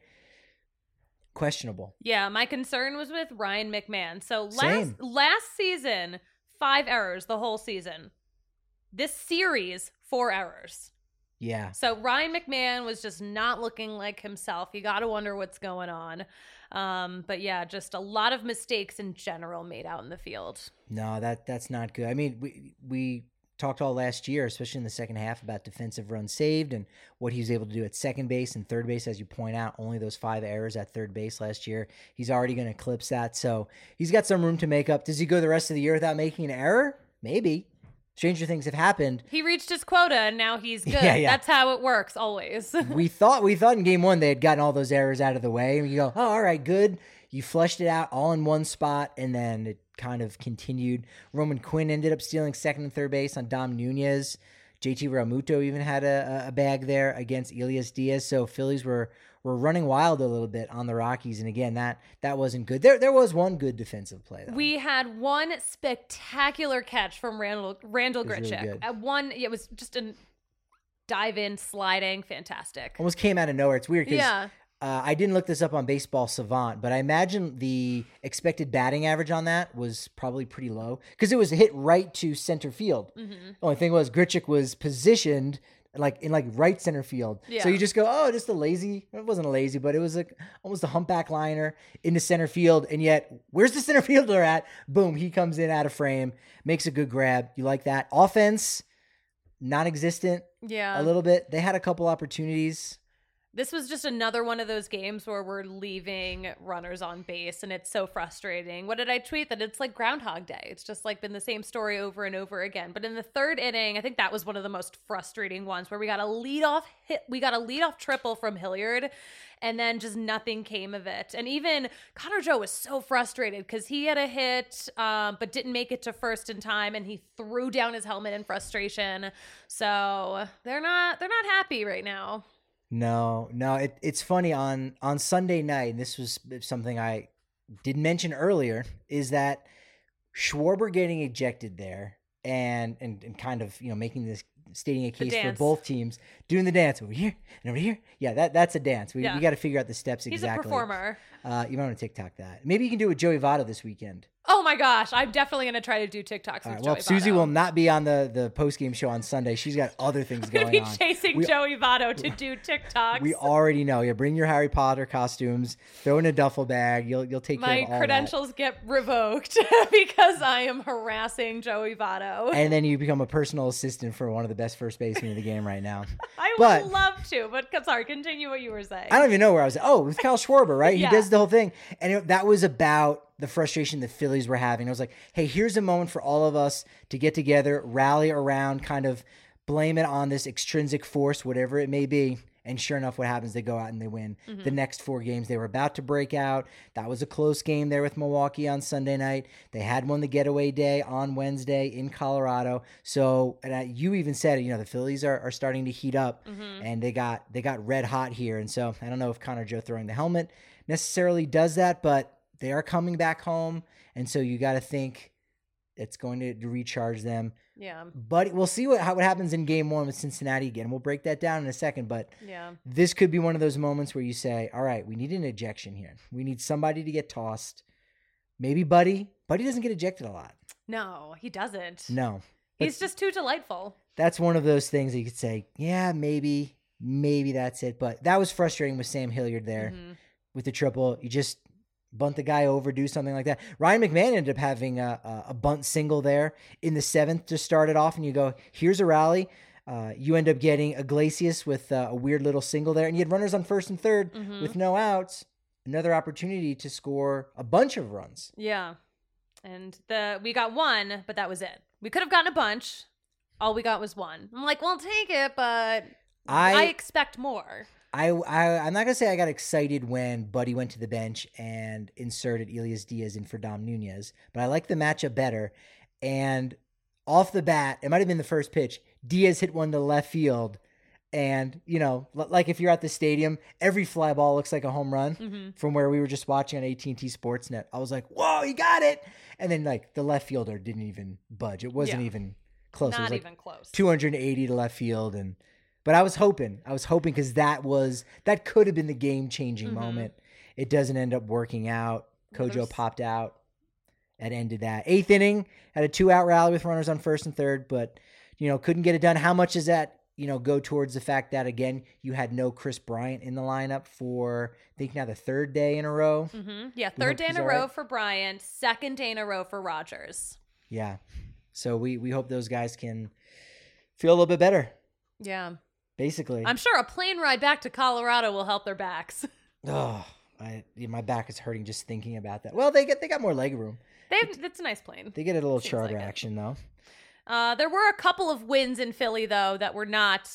questionable. Yeah, my concern was with Ryan McMahon. So last Same. last season, five errors the whole season. This series, four errors. Yeah. So Ryan McMahon was just not looking like himself. You got to wonder what's going on. Um, but yeah, just a lot of mistakes in general made out in the field. No, that that's not good. I mean, we we talked all last year, especially in the second half, about defensive runs saved and what he was able to do at second base and third base. As you point out, only those five errors at third base last year. He's already going to eclipse that. So he's got some room to make up. Does he go the rest of the year without making an error? Maybe. Stranger things have happened. He reached his quota and now he's good. Yeah, yeah. That's how it works always. we thought we thought in game one they had gotten all those errors out of the way. And you go, oh, all right, good. You flushed it out all in one spot, and then it kind of continued. Roman Quinn ended up stealing second and third base on Dom Nunez. J T Realmuto even had a, a bag there against Elias Diaz. So Phillies were were running wild a little bit on the Rockies, and again, that that wasn't good. There there was one good defensive play, though. We had one spectacular catch from Randall Randall Grichuk. Really At one, it was just a dive in, sliding, fantastic. Almost came out of nowhere. It's weird because Yeah. uh, I didn't look this up on Baseball Savant, but I imagine the expected batting average on that was probably pretty low because it was hit right to center field. Mm-hmm. The only thing was Grichuk was positioned like in like right center field. Yeah. So you just go, oh, just a lazy, it wasn't a lazy, but it was like almost a humpback liner into center field. And yet, where's the center fielder at? Boom, he comes in out of frame, makes a good grab. You like that? Offense, non-existent Yeah. a little bit. They had a couple opportunities. This was just another one of those games where we're leaving runners on base, and it's so frustrating. What did I tweet? That it's like Groundhog Day. It's just like been the same story over and over again. But in the third inning, I think that was one of the most frustrating ones where we got a leadoff hit. We got a leadoff triple from Hilliard, and then just nothing came of it. And even Connor Joe was so frustrated because he had a hit, um, but didn't make it to first in time, and he threw down his helmet in frustration. So they're not they're not happy right now. No, no, it, it's funny on, on Sunday night, and this was something I didn't mention earlier, is that Schwarber getting ejected there and, and, and kind of, you know, making this, stating a case for both teams, doing the dance over here and over here. Yeah, that that's a dance. We, Yeah. we got to figure out the steps He's exactly. a performer. Uh, you might want to TikTok that. Maybe you can do it with Joey Votto this weekend. Oh my gosh, I'm definitely going to try to do TikToks All with right, well, Joey Susie Votto. will not be on the, the post-game show on Sunday. She's got other things I'm going going to be on. chasing We- Joey Votto to do TikToks. We already know. Yeah, bring your Harry Potter costumes, throw in a duffel bag. You'll you'll take care My of all that. credentials get revoked because I am harassing Joey Votto. And then you become a personal assistant for one of the best first basemen in the game right now. I but- would love to, but sorry, continue what you were saying. I don't even know where I was. Oh, it was Kyle Schwarber, right? Yeah. He does the whole thing. And it, that was about the frustration the Phillies were having. I was like, hey, here's a moment for all of us to get together, rally around, kind of blame it on this extrinsic force, whatever it may be. And sure enough, what happens? They go out and they win Mhm. the next four games. They were about to break out. That was a close game there with Milwaukee on Sunday night. They had won the getaway day on Wednesday in Colorado. So and I, you even said it, you know, the Phillies are, are starting to heat up Mhm. and they got they got red hot here. And so I don't know if Connor Joe throwing the helmet necessarily does that, but they are coming back home. And so you got to think it's going to, to recharge them. Yeah. But we'll see what how what happens in game one with Cincinnati again. We'll break that down in a second. But Yeah. this could be one of those moments where you say, all right, we need an ejection here. We need somebody to get tossed. Maybe Buddy. Buddy doesn't get ejected a lot. No, he doesn't. No. He's just too delightful. That's one of those things that you could say, yeah, maybe, maybe that's it. But that was frustrating with Sam Hilliard there Mhm. with the triple. You just bunt the guy over, do something like that. Ryan McMahon ended up having a, a, a bunt single there in the seventh to start it off, and you go, here's a rally. Uh, you end up getting Iglesias with uh, a weird little single there, and you had runners on first and third Mhm. with no outs. Another opportunity to score a bunch of runs. Yeah. And the we got one, but that was it. We could have gotten a bunch. All we got was one. I'm like, well, take it, but I, I expect more. I, I, I'm not going to say I got excited when Buddy went to the bench and inserted Elias Diaz in for Dom Nunez, but I like the matchup better. And off the bat, it might have been the first pitch, Diaz hit one to left field. And, you know, l- like if you're at the stadium, every fly ball looks like a home run Mhm. from where we were just watching on A T and T Sportsnet. I was like, whoa, he got it. And then, like, the left fielder didn't even budge. It wasn't Yeah. even close. it Not was like even close. two hundred eighty to left field. And but I was hoping, I was hoping because that was that could have been the game changing Mhm. moment. It doesn't end up working out. Well, Kojo there's- popped out. That ended that eighth inning. Had a two out rally with runners on first and third, but you know couldn't get it done. How much does that you know go towards the fact that again you had no Chris Bryant in the lineup for I think now the third day in a row. hmm Yeah, hope third day in he's a all row right. for Bryant, second day in a row for Rogers. Yeah, so we we hope those guys can feel a little bit better. Yeah. Basically, I'm sure a plane ride back to Colorado will help their backs. Oh, I, yeah, my back is hurting just thinking about that. Well, they get they got more leg room. They have, it's a nice plane. They get a little Seems charter like it. action though. Uh, there were a couple of wins in Philly though that were not.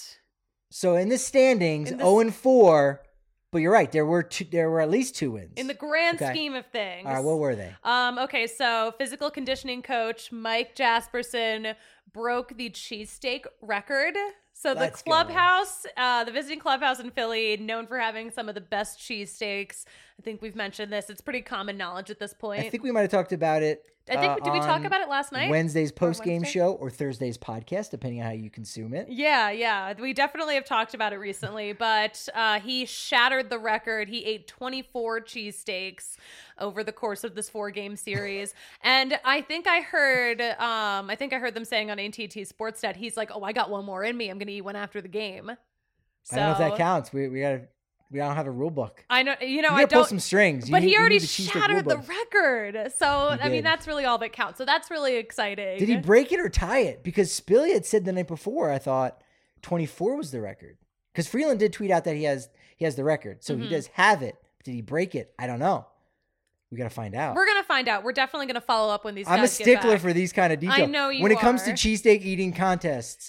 So in the standings, In the- zero and four. But you're right. There were two. There were at least two wins. In the grand Okay. scheme of things. All right, what were they? Um, okay, so physical conditioning coach Mike Jasperson broke the cheesesteak record. So the Let's go. clubhouse, uh, the visiting clubhouse in Philly, known for having some of the best cheesesteaks. I think we've mentioned this. It's pretty common knowledge at this point. I think we might have talked about it. I think uh, did we talk on about it last night? Wednesday's post game Wednesday? show or Thursday's podcast, depending on how you consume it. Yeah, yeah. We definitely have talked about it recently, but uh, he shattered the record. He ate twenty-four cheesesteaks over the course of this four-game series. And I think I heard um, I think I heard them saying on A T and T Sportsnet, he's like, oh, I got one more in me. I'm going to eat one after the game. So, I don't know if that counts. We we got we don't have a rule book. I know, you know, You I gotta pull don't. some strings. You But need- he you already need the cheesesteak shattered the rule book. record. So, I mean, did. that's really all that counts. So that's really exciting. Did he break it or tie it? Because Spilly had said the night before, I thought twenty-four was the record. Because Freeland did tweet out that he has he has the record, so he Mhm. does have it. Did he break it? I don't know. We gotta find out. We're going to find out. We're definitely going to follow up when these I'm a guys get stickler back. for these kind of details. I know you When it comes to are. cheesesteak eating contests,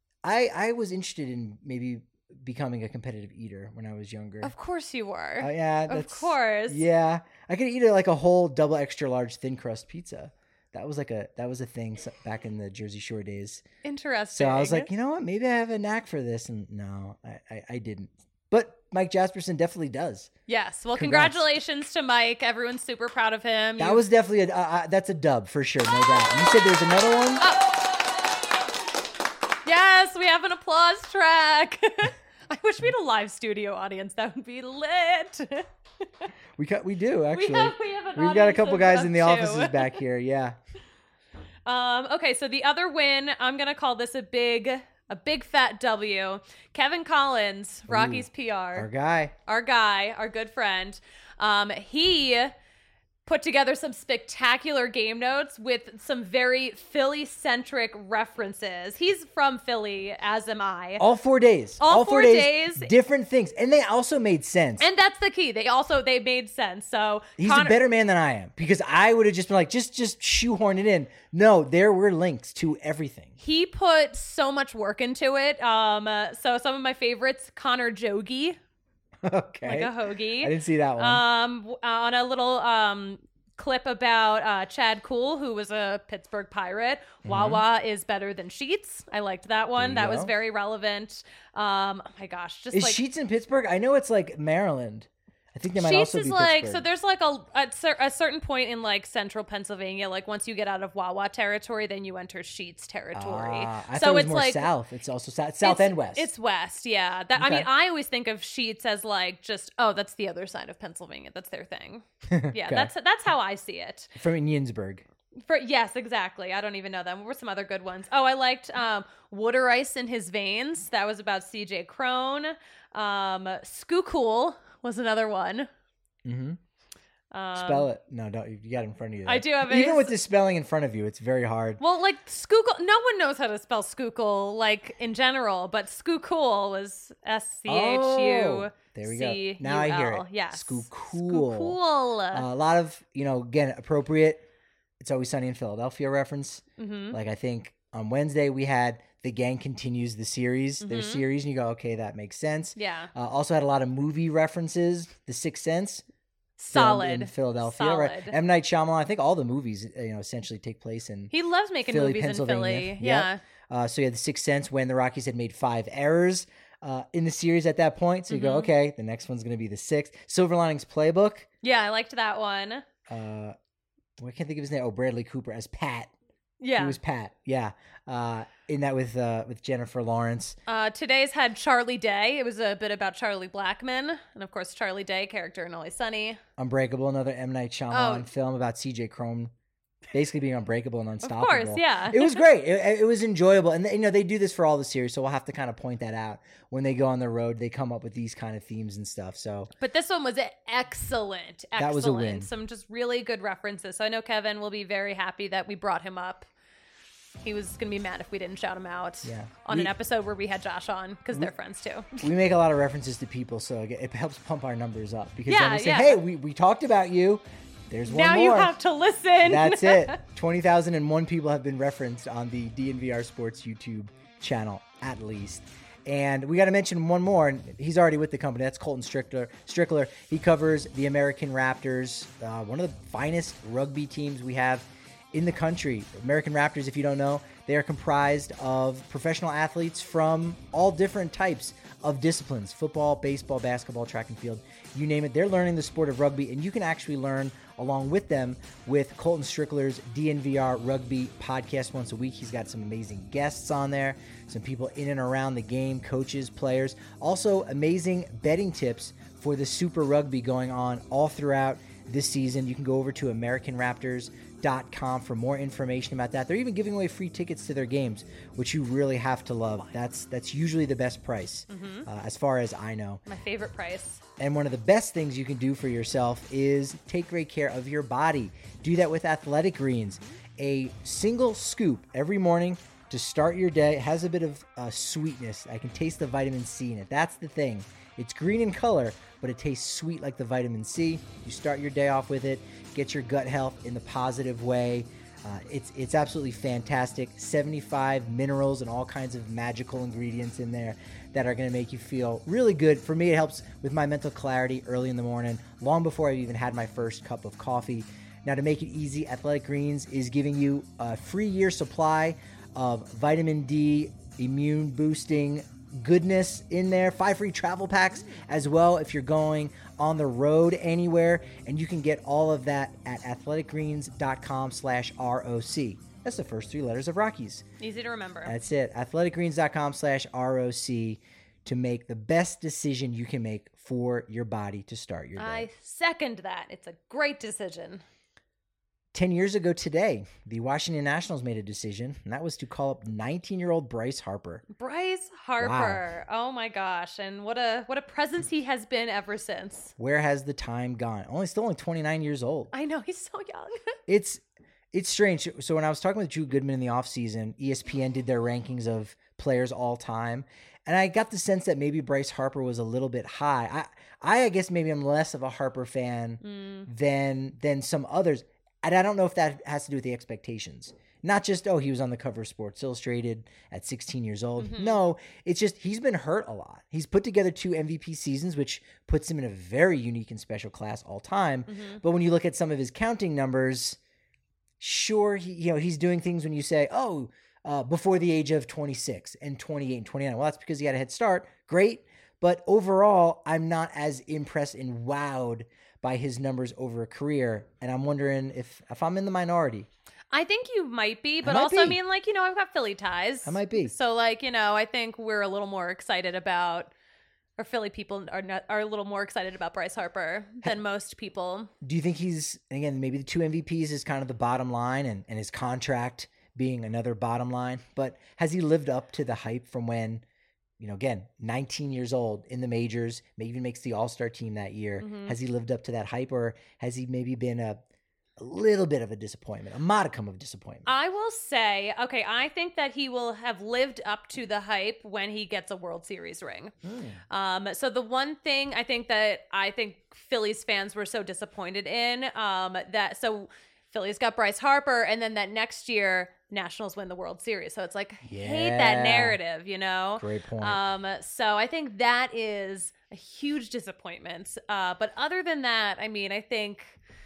I I was interested in maybe becoming a competitive eater when I was younger. Of course you were. Uh, yeah, Of that's, course. Yeah, I could eat it like a whole double extra large thin crust pizza. That was like a that was a thing s- back in the Jersey Shore days. Interesting. So I was like, you know what? Maybe I have a knack for this, and no, I I, I didn't. But Mike Jasperson definitely does. yes. Well, Congrats. congratulations to Mike. Everyone's super proud of him. That You- was definitely a uh, uh, that's a dub for sure, no doubt. You said there's another one. Yes, we have an applause track. I wish we had a live studio audience. That would be lit. We cut we do actually. we have we have an We've got a audience couple of- guys of in the two. offices back here. Yeah. Um, okay, so the other win, I'm gonna call this a big, a big fat W. Kevin Collins, Rocky's P R, Our guy. our guy, our good friend. Um, he put together some spectacular game notes with some very Philly-centric references. He's from Philly, as am I. All four days. All, All four, four days, days. Different things. And they also made sense. And that's the key. They also, they made sense. So He's Connor- a better man than I am because I would have just been like, just, just shoehorn it in. No, there were links to everything. He put so much work into it. Um, uh, so some of my favorites, Connor Jogi. Okay. Like a hoagie. I didn't see that one. Um, w- on a little um clip about uh, Chad Kuhl, who was a Pittsburgh Pirate. Mm-hmm. Wawa is better than Sheets. I liked that one. That go. was very relevant. Um, oh my gosh, just is like Sheets in Pittsburgh? I know it's like Maryland. I think they might Sheets also is be like Pittsburgh. so. There's like a at cer- a certain point in like central Pennsylvania. Like once you get out of Wawa territory, then you enter Sheets territory. Ah, I so thought it was it's more like south. It's also south, south it's, and west. It's west, yeah. That I Okay. mean, I always think of Sheets as like just oh, that's the other side of Pennsylvania. That's their thing. Yeah, Okay. that's that's how I see it. From Unionsburg. For yes, exactly. I don't even know them. What were some other good ones? Oh, I liked um, Water Ice in His Veins. That was about C J Crone. Um, Skookool was another one. Mm-hmm. Um, Spell it. No, don't. You got it in front of you. Though. I do have it. Even with the spelling in front of you, it's very hard. Well, like Skookle, no one knows how to spell Skookle, like in general, but Skookool was S C H U. Oh, there we go. Now I hear it. Yes. Skookool. Skookool. Uh, a lot of, you know, again, appropriate. It's Always Sunny in Philadelphia reference. Mm-hmm. Like I think on Wednesday we had The Gang Continues the series, their Mhm. series, and you go, okay, that makes sense. Yeah. Uh, also had a lot of movie references. The Sixth Sense. Solid. filmed in Philadelphia, Solid. right? M. Night Shyamalan. I think all the movies, you know, essentially take place in He loves making Philly, movies in Pennsylvania. Philly. Yep. Yeah. Uh, so you had The Sixth Sense when the Rockies had made five errors uh, in the series at that point. So you go, Mhm. okay, the next one's going to be the sixth. Silver Linings Playbook. Yeah, I liked that one. Uh, well, I can't think of his name. Oh, Bradley Cooper as Pat. Yeah. He was Pat. Yeah. Uh, in that with uh, with Jennifer Lawrence. Uh, today's had Charlie Day. It was a bit about Charlie Blackmon. And of course, Charlie Day, character in Always Sunny. Unbreakable, another M. Night Shyamalan Oh. film about C J Crone basically being unbreakable and Of unstoppable. course, yeah. It was great. It, it was enjoyable. And, you know, they do this for all the series, so we'll have to kind of point that out. When they go on the road, they come up with these kind of themes and stuff. So, But this one was excellent. Excellent. That was a win. Some just really good references. So I know Kevin will be very happy that we brought him up. He was going to be mad if we didn't shout him out Yeah. on We- an episode where we had Josh on because they're friends too. we make a lot of references to people, so it it helps pump our numbers up. Because Yeah, then we say, yeah. hey, we, we talked about you. There's one Now more. you have to listen. That's it. twenty thousand one people have been referenced on the D N V R Sports YouTube channel, at least. And we got to mention one more, and he's already with the company. That's Colton Strickler. Strickler. He covers the American Raptors, uh, one of the finest rugby teams we have in the country. American Raptors, if you don't know, they are comprised of professional athletes from all different types of disciplines: football, baseball, basketball, track and field, you name it. They're learning the sport of rugby, and you can actually learn along with them with Colton Strickler's D N V R Rugby podcast once a week. He's got some amazing guests on there, some people in and around the game, coaches, players, also amazing betting tips for the Super Rugby going on all throughout this season. You can go over to American Raptors dot com for more information about that. They're even giving away free tickets to their games, which you really have to love. That's that's usually the best price, Mm-hmm. uh, as far as I know. My favorite price. And one of the best things you can do for yourself is take great care of your body. Do that with Athletic Greens. A single scoop every morning to start your day. It has a bit of uh, sweetness. I can taste the vitamin C in it. That's the thing. It's green in color, but it tastes sweet like the vitamin C. You start your day off with it. Get your gut health in the positive way. Uh, it's it's absolutely fantastic. seventy-five minerals and all kinds of magical ingredients in there that are going to make you feel really good. For me, it helps with my mental clarity early in the morning, long before I've even had my first cup of coffee. Now, to make it easy, Athletic Greens is giving you a free year supply of vitamin D, immune boosting goodness in there. Five free travel packs as well if you're going on the road anywhere. And you can get all of that at athletic greens dot com slash R O C. That's the first three letters of Rockies. Easy to remember. That's it. athletic greens dot com slash R O C to make the best decision you can make for your body to start your day. I second that. It's a great decision. ten years ago today, the Washington Nationals made a decision, and that was to call up nineteen-year-old Bryce Harper. Bryce Harper. Wow. Oh my gosh. And what a what a presence he has been ever since. Where has the time gone? Only still only twenty-nine years old. I know, he's so young. It's it's strange. So when I was talking with Drew Goodman in the offseason, E S P N did their rankings of players all time. And I got the sense that maybe Bryce Harper was a little bit high. I, I guess maybe I'm less of a Harper fan mm. than than some others. And I don't know if that has to do with the expectations. Not just, oh, he was on the cover of Sports Illustrated at sixteen years old. Mm-hmm. No, it's just he's been hurt a lot. He's put together two M V P seasons, which puts him in a very unique and special class all time. Mm-hmm. But when you look at some of his counting numbers, sure, he, you know, he's doing things when you say, oh, uh, before the age of twenty-six and twenty-eight and twenty-nine. Well, that's because he had a head start. Great. But overall, I'm not as impressed and wowed by his numbers over a career. And I'm wondering if, if I'm in the minority. I think you might be, but I might also, be. I mean, like, you know, I've got Philly ties. I might be. So, like, you know, I think we're a little more excited about, or Philly people are not, are a little more excited about Bryce Harper than most people. Do you think he's, again, maybe the two M V Ps is kind of the bottom line and, and his contract being another bottom line, but has he lived up to the hype from when, you know, again, nineteen years old in the majors, maybe even makes the All-Star team that year. Mm-hmm. Has he lived up to that hype, or has he maybe been a, a little bit of a disappointment, a modicum of disappointment? I will say, okay, I think that he will have lived up to the hype when he gets a World Series ring. Mm. Um, so the one thing I think that I think Phillies fans were so disappointed in, um, that so Phillies got Bryce Harper, and then that next year Nationals win the World Series. So it's like, yeah. hate that narrative, you know? Great point. Um, so I think that is a huge disappointment. Uh, but other than that, I mean, I think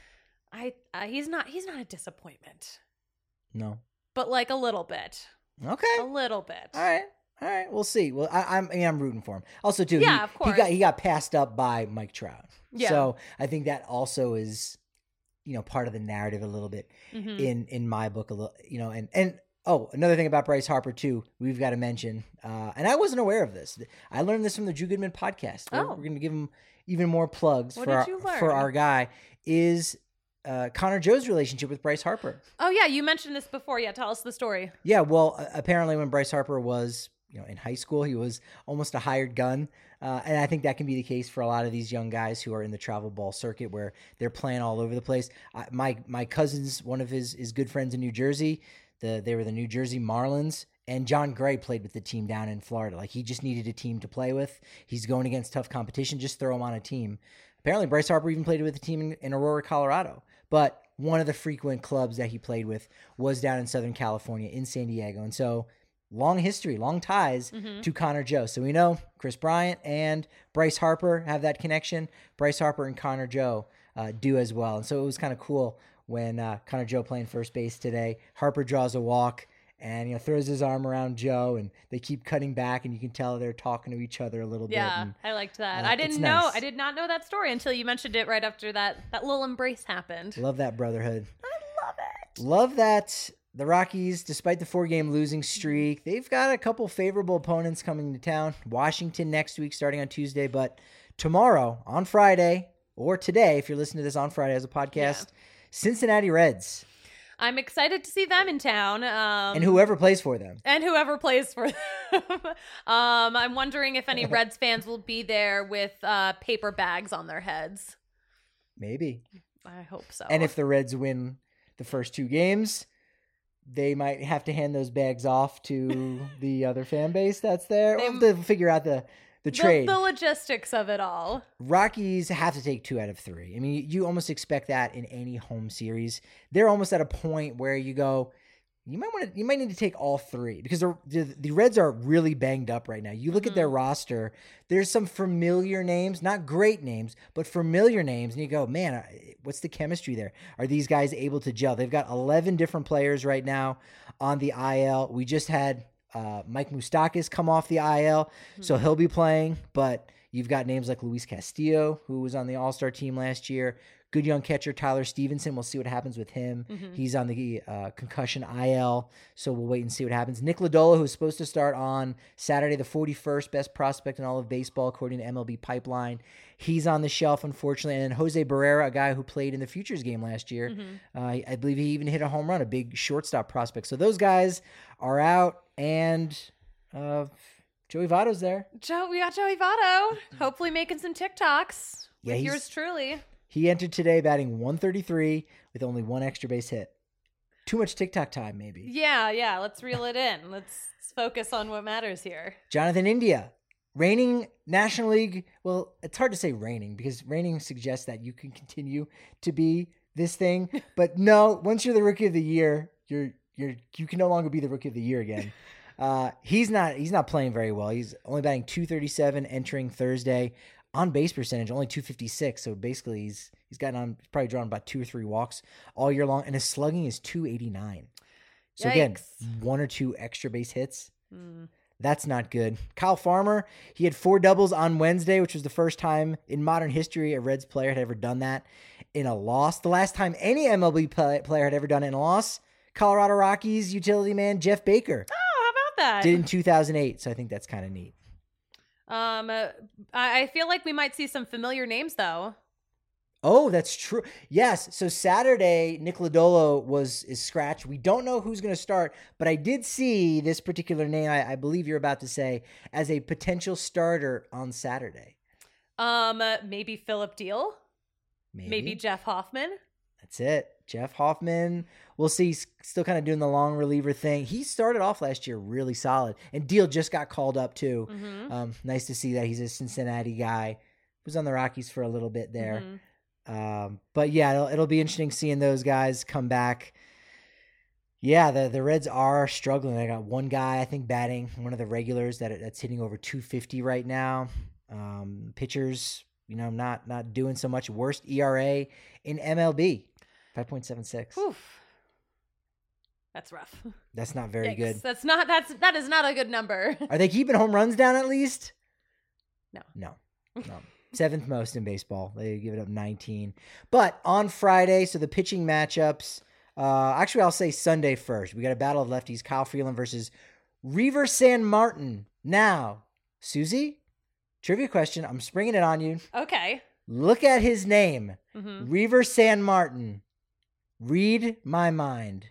I uh, he's not he's not a disappointment. No. But like a little bit. Okay. A little bit. All right. All right. We'll see. Well, I, I'm I mean, I'm rooting for him. Also, too, yeah, he, of course. he got he got passed up by Mike Trout. Yeah. So I think that also is, you know, part of the narrative a little bit mm-hmm. in, in my book, a little, you know, and, and, oh, another thing about Bryce Harper too, we've got to mention, uh, and I wasn't aware of this. I learned this from the Drew Goodman podcast. Oh. We're, we're going to give him even more plugs what for our, did you learn? for our guy is, uh, Connor Joe's relationship with Bryce Harper. Oh yeah. You mentioned this before. Yeah. Tell us the story. Yeah. Well, uh, apparently when Bryce Harper was, you know, in high school, he was almost a hired gun. Uh, and I think that can be the case for a lot of these young guys who are in the travel ball circuit where they're playing all over the place. Uh, my my cousin's, one of his, his good friends in New Jersey, the they were the New Jersey Marlins, and John Gray played with the team down in Florida. Like, he just needed a team to play with. He's going against tough competition. Just throw him on a team. Apparently, Bryce Harper even played with a team in, in Aurora, Colorado. But one of the frequent clubs that he played with was down in Southern California, in San Diego. And so long history, long ties mm-hmm. to Connor Joe. So we know Chris Bryant and Bryce Harper have that connection. Bryce Harper and Connor Joe uh, do as well. And so it was kind of cool when uh, Connor Joe playing first base today. Harper draws a walk and, you know, throws his arm around Joe, and they keep cutting back, and you can tell they're talking to each other a little yeah, bit. Yeah, I liked that. Uh, I didn't know. Nice. I did not know that story until you mentioned it right after that that little embrace happened. Love that brotherhood. I love it. Love that. The Rockies, despite the four-game losing streak, they've got a couple favorable opponents coming to town. Washington next week, starting on Tuesday, but tomorrow, on Friday, or today, if you're listening to this on Friday as a podcast, yeah. Cincinnati Reds. I'm excited to see them in town. Um, and whoever plays for them. And whoever plays for them. um, I'm wondering if any Reds fans will be there with uh, paper bags on their heads. Maybe. I hope so. And if the Reds win the first two games, they might have to hand those bags off to the other fan base that's there. They, we'll figure out the, the trade. The, the logistics of it all. Rockies have to take two out of three. I mean, you almost expect that in any home series. They're almost at a point where you go, you might want to, you might need to take all three, because the the, the Reds are really banged up right now. You look mm-hmm. at their roster, there's some familiar names, not great names, but familiar names. And you go, man, what's the chemistry there? Are these guys able to gel? They've got eleven different players right now on the I L. We just had uh, Mike Moustakas come off the I L, mm-hmm. so he'll be playing. But you've got names like Luis Castillo, who was on the All-Star team last year, good young catcher Tyler Stevenson. We'll see what happens with him. Mhm. He's on the uh, concussion I L, so we'll wait and see what happens. Nick Lodolo, who's supposed to start on Saturday, the forty-first best prospect in all of baseball, according to M L B Pipeline. He's on the shelf, unfortunately. And then Jose Barrera, a guy who played in the Futures game last year. Mhm. Uh, I I believe he even hit a home run, a big shortstop prospect. So those guys are out, and uh, Joey Votto's there. Joe, we got Joey Votto. Hopefully making some TikToks. Yeah, with he's- yours truly. He entered today batting one thirty-three with only one extra base hit. Too much TikTok time, maybe. Yeah, yeah. Let's reel it in. Let's focus on what matters here. Jonathan India, reigning National League. Well, it's hard to say reigning because reigning suggests that you can continue to be this thing. But no, once you're the rookie of the year, you're you're you can no longer be the rookie of the year again. Uh, he's not he's not playing very well. He's only batting two thirty-seven entering Thursday. On base percentage only two fifty-six. So basically, he's he's gotten on he's probably drawn about two or three walks all year long, and his slugging is two eighty-nine. So again, Yikes. one or two extra base hits. Mm. That's not good. Kyle Farmer, he had four doubles on Wednesday, which was the first time in modern history a Reds player had ever done that in a loss. The last time any M L B play, player had ever done it in a loss, Colorado Rockies utility man Jeff Baker Oh, how about that? did in two thousand eight. So I think that's kind of neat. Um, uh, I I feel like we might see some familiar names though. Oh, that's true. Yes. So Saturday, Nick Lodolo was is scratched. We don't know who's going to start, but I did see this particular name. I, I believe you're about to say as a potential starter on Saturday. Um, uh, maybe Philip Deal. Maybe, Maybe Jeff Hoffman. That's it. Jeff Hoffman. We'll see. He's still kind of doing the long reliever thing. He started off last year really solid, and Deal just got called up too. Mm-hmm. Um, nice to see that he's a Cincinnati guy. Was on the Rockies for a little bit there. Mhm. Um, but yeah, it'll, it'll be interesting seeing those guys come back. Yeah, the, the Reds are struggling. I got one guy, I think, batting, one of the regulars that that's hitting over two fifty right now. Um, pitchers, you know, not not doing so much. Worst E R A in M L B, five point seven six. Oof. That's rough. That's not very Yikes. good. That's not. That's that is not a good number. Are they keeping home runs down at least? No. No. No. Seventh most in baseball. They give it up nineteen. But on Friday, so the pitching matchups, uh, actually, I'll say Sunday first. We got a battle of lefties, Kyle Freeland versus Reaver San Martin. Now, Susie, trivia question. I'm springing it on you. Okay. Look at his name, Mm-hmm. Reaver San Martin. Read my mind.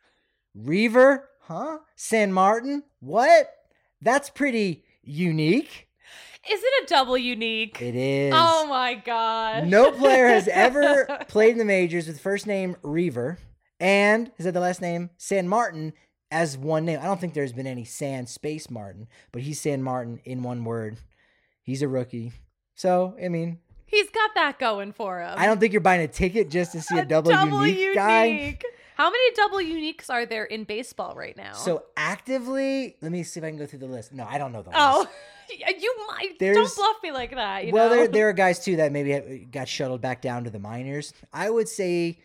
Reaver, huh? San Martin? What? That's pretty unique. Is it a double unique? It is. Oh my gosh. No player has ever played in the majors with first name Reaver and has had the last name San Martin as one name. I don't think there's been any San Space Martin, but he's San Martin in one word. He's a rookie. So, I mean, He's got that going for him. I don't think you're buying a ticket just to see a double, unique, guy. How many double uniques are there in baseball right now? So actively, let me see if I can go through the list. No, I don't know the oh, list. you might There's- don't bluff me like that. You well, know? there there are guys too that maybe have- got shuttled back down to the minors. I would say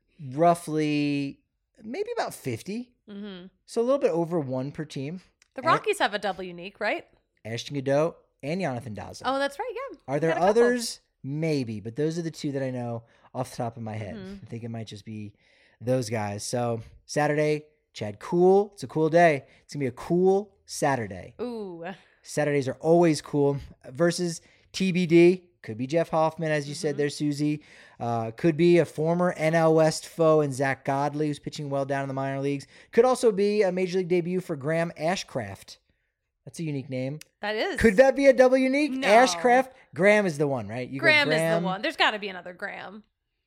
roughly maybe about fifty. Mhm. So a little bit over one per team. The Rockies have a double unique, right? Ashton Godot and Jonathan Daza. Oh, that's right. Yeah. are there got a couple. others? Maybe, but those are the two that I know off the top of my head. Mhm. I think it might just be those guys. So Saturday, Chad Cool. It's a cool day. It's gonna be a cool Saturday. Ooh. Saturdays are always cool. Versus T B D. Could be Jeff Hoffman, as you said Mhm. there, Susie. Uh, could be a former N L West foe in Zach Godley, who's pitching well down in the minor leagues. Could also be a major league debut for Graham Ashcraft. That's a unique name. That is. Could that be a double unique? No. Ashcraft? Graham is the one, right? You go Graham, is the one. There's got to be another Graham.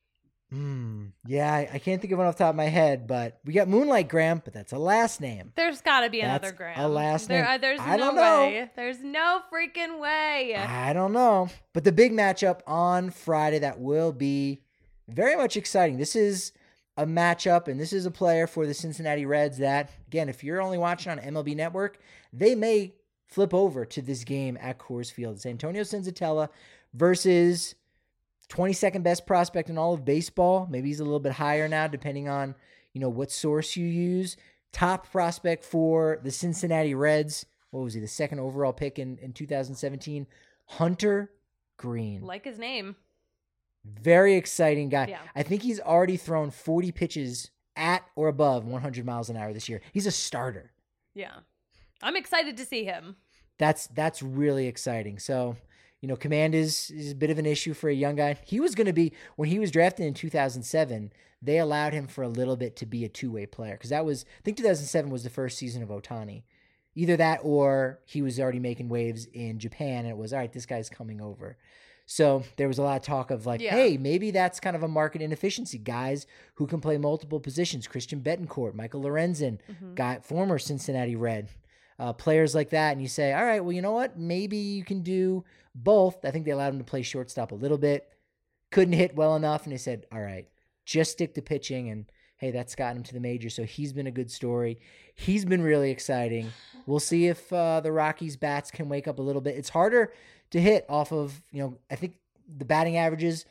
Hmm. Yeah, I, I can't think of one off the top of my head, but we got Moonlight Graham, but that's a last name. There's got to be another That's Graham. a last there, name. uh, there's I no don't know. way. There's no freaking way. I don't know. But the big matchup on Friday that will be very much exciting. This is a matchup, and this is a player for the Cincinnati Reds that, again, if you're only watching on M L B Network, they may flip over to this game at Coors Field. It's Antonio Senzatella versus twenty-second best prospect in all of baseball. Maybe he's a little bit higher now, depending on, you know, what source you use. Top prospect for the Cincinnati Reds. What was he? The second overall pick in, in two thousand seventeen. Hunter Green. Like his name. Very exciting guy. Yeah. I think he's already thrown forty pitches at or above one hundred miles an hour this year. He's a starter. Yeah. I'm excited to see him. That's that's really exciting. So, you know, command is, is a bit of an issue for a young guy. He was going to be, when he was drafted in two thousand seven, they allowed him for a little bit to be a two-way player because that was, I think two thousand seven was the first season of Ohtani. Either that or he was already making waves in Japan and it was, all right, this guy's coming over. So there was a lot of talk of like, Yeah. hey, maybe that's kind of a market inefficiency. Guys who can play multiple positions, Christian Betancourt, Michael Lorenzen, Mm-hmm. guy, former Cincinnati Red, uh, players like that. And you say, all right, well, you know what? Maybe you can do both. I think they allowed him to play shortstop a little bit. Couldn't hit well enough. And they said, all right, just stick to pitching. And hey, that's gotten him to the major. So he's been a good story. He's been really exciting. We'll see if uh, the Rockies bats can wake up a little bit. It's harder to hit off of, you know, I think the batting averages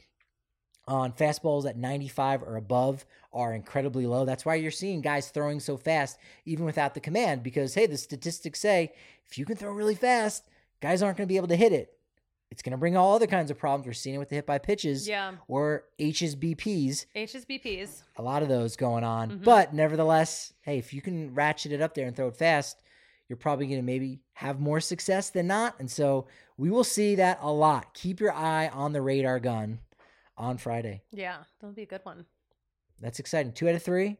on fastballs at ninety-five or above are incredibly low. That's why you're seeing guys throwing so fast, even without the command, because, hey, the statistics say if you can throw really fast, guys aren't going to be able to hit it. It's going to bring all other kinds of problems. We're seeing it with the hit by pitches Yeah. or H S B Ps. H S B Ps. A lot of those going on. Mhm. But nevertheless, hey, if you can ratchet it up there and throw it fast, you're probably going to maybe have more success than not. And so we will see that a lot. Keep your eye on the radar gun on Friday. Yeah. That'll be a good one. That's exciting. Two out of three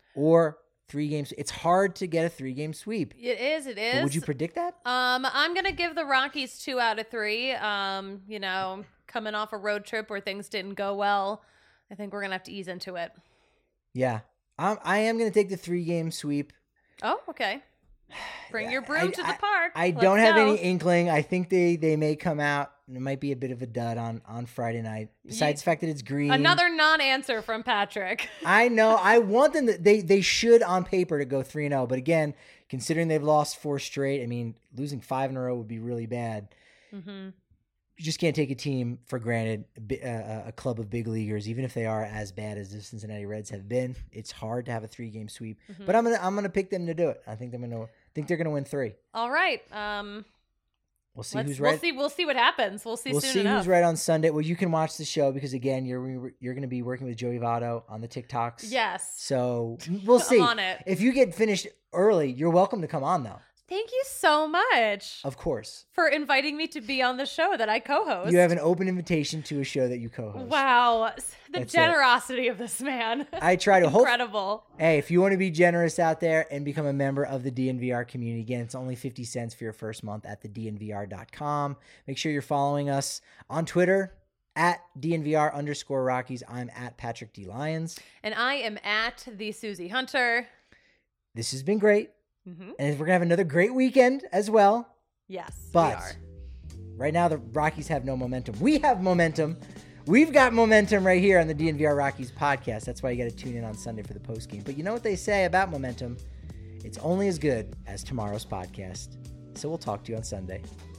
or three games. It's hard to get a three-game sweep. It is. It is. But would you predict that? Um, I'm gonna give the Rockies two out of three. Um, you know, coming off a road trip where things didn't go well, I think we're gonna have to ease into it. Yeah. I'm, I am going to take the three-game sweep. Oh, okay. Bring your broom I- to the I- park. I Let's don't have go. any inkling. I think they, they may come out. It might be a bit of a dud on, on Friday night. Besides Ye- the fact that it's green. Another non-answer from Patrick. I know. I want them to, they they should on paper to go three and oh. But again, considering they've lost four straight, I mean, losing five in a row would be really bad. Mm-hmm. You just can't take a team for granted, a bi- uh, a club of big leaguers, even if they are as bad as the Cincinnati Reds have been. It's hard to have a three-game sweep. Mhm. But I'm gonna I'm gonna pick them to do it. I think they're gonna think they're gonna win three. All right. Um, We'll see let's, who's we'll right. see. We'll see what happens. We'll see We'll soon see enough. who's right on Sunday. Well, you can watch the show because again, you're you're going to be working with Joey Votto on the TikToks. Yes. So we'll see. I'm on it. If you get finished early, you're welcome to come on though. Thank you so much Of course. for inviting me to be on the show that I co-host. You have an open invitation to a show that you co-host. Wow, the That's it. generosity of this man. I try to hope. Incredible. Hey, if you want to be generous out there and become a member of the D N V R community, again, it's only fifty cents for your first month at the D N V R dot com. Make sure you're following us on Twitter at D N V R underscore Rockies. I'm at Patrick D. Lyons. And I am at the Susie Hunter. This has been great. Mm-hmm. And we're going to have another great weekend as well. Yes, But we are. right now, the Rockies have no momentum. We have momentum. We've got momentum right here on the D N V R Rockies podcast. That's why you got to tune in on Sunday for the postgame. But you know what they say about momentum? It's only as good as tomorrow's podcast. So we'll talk to you on Sunday.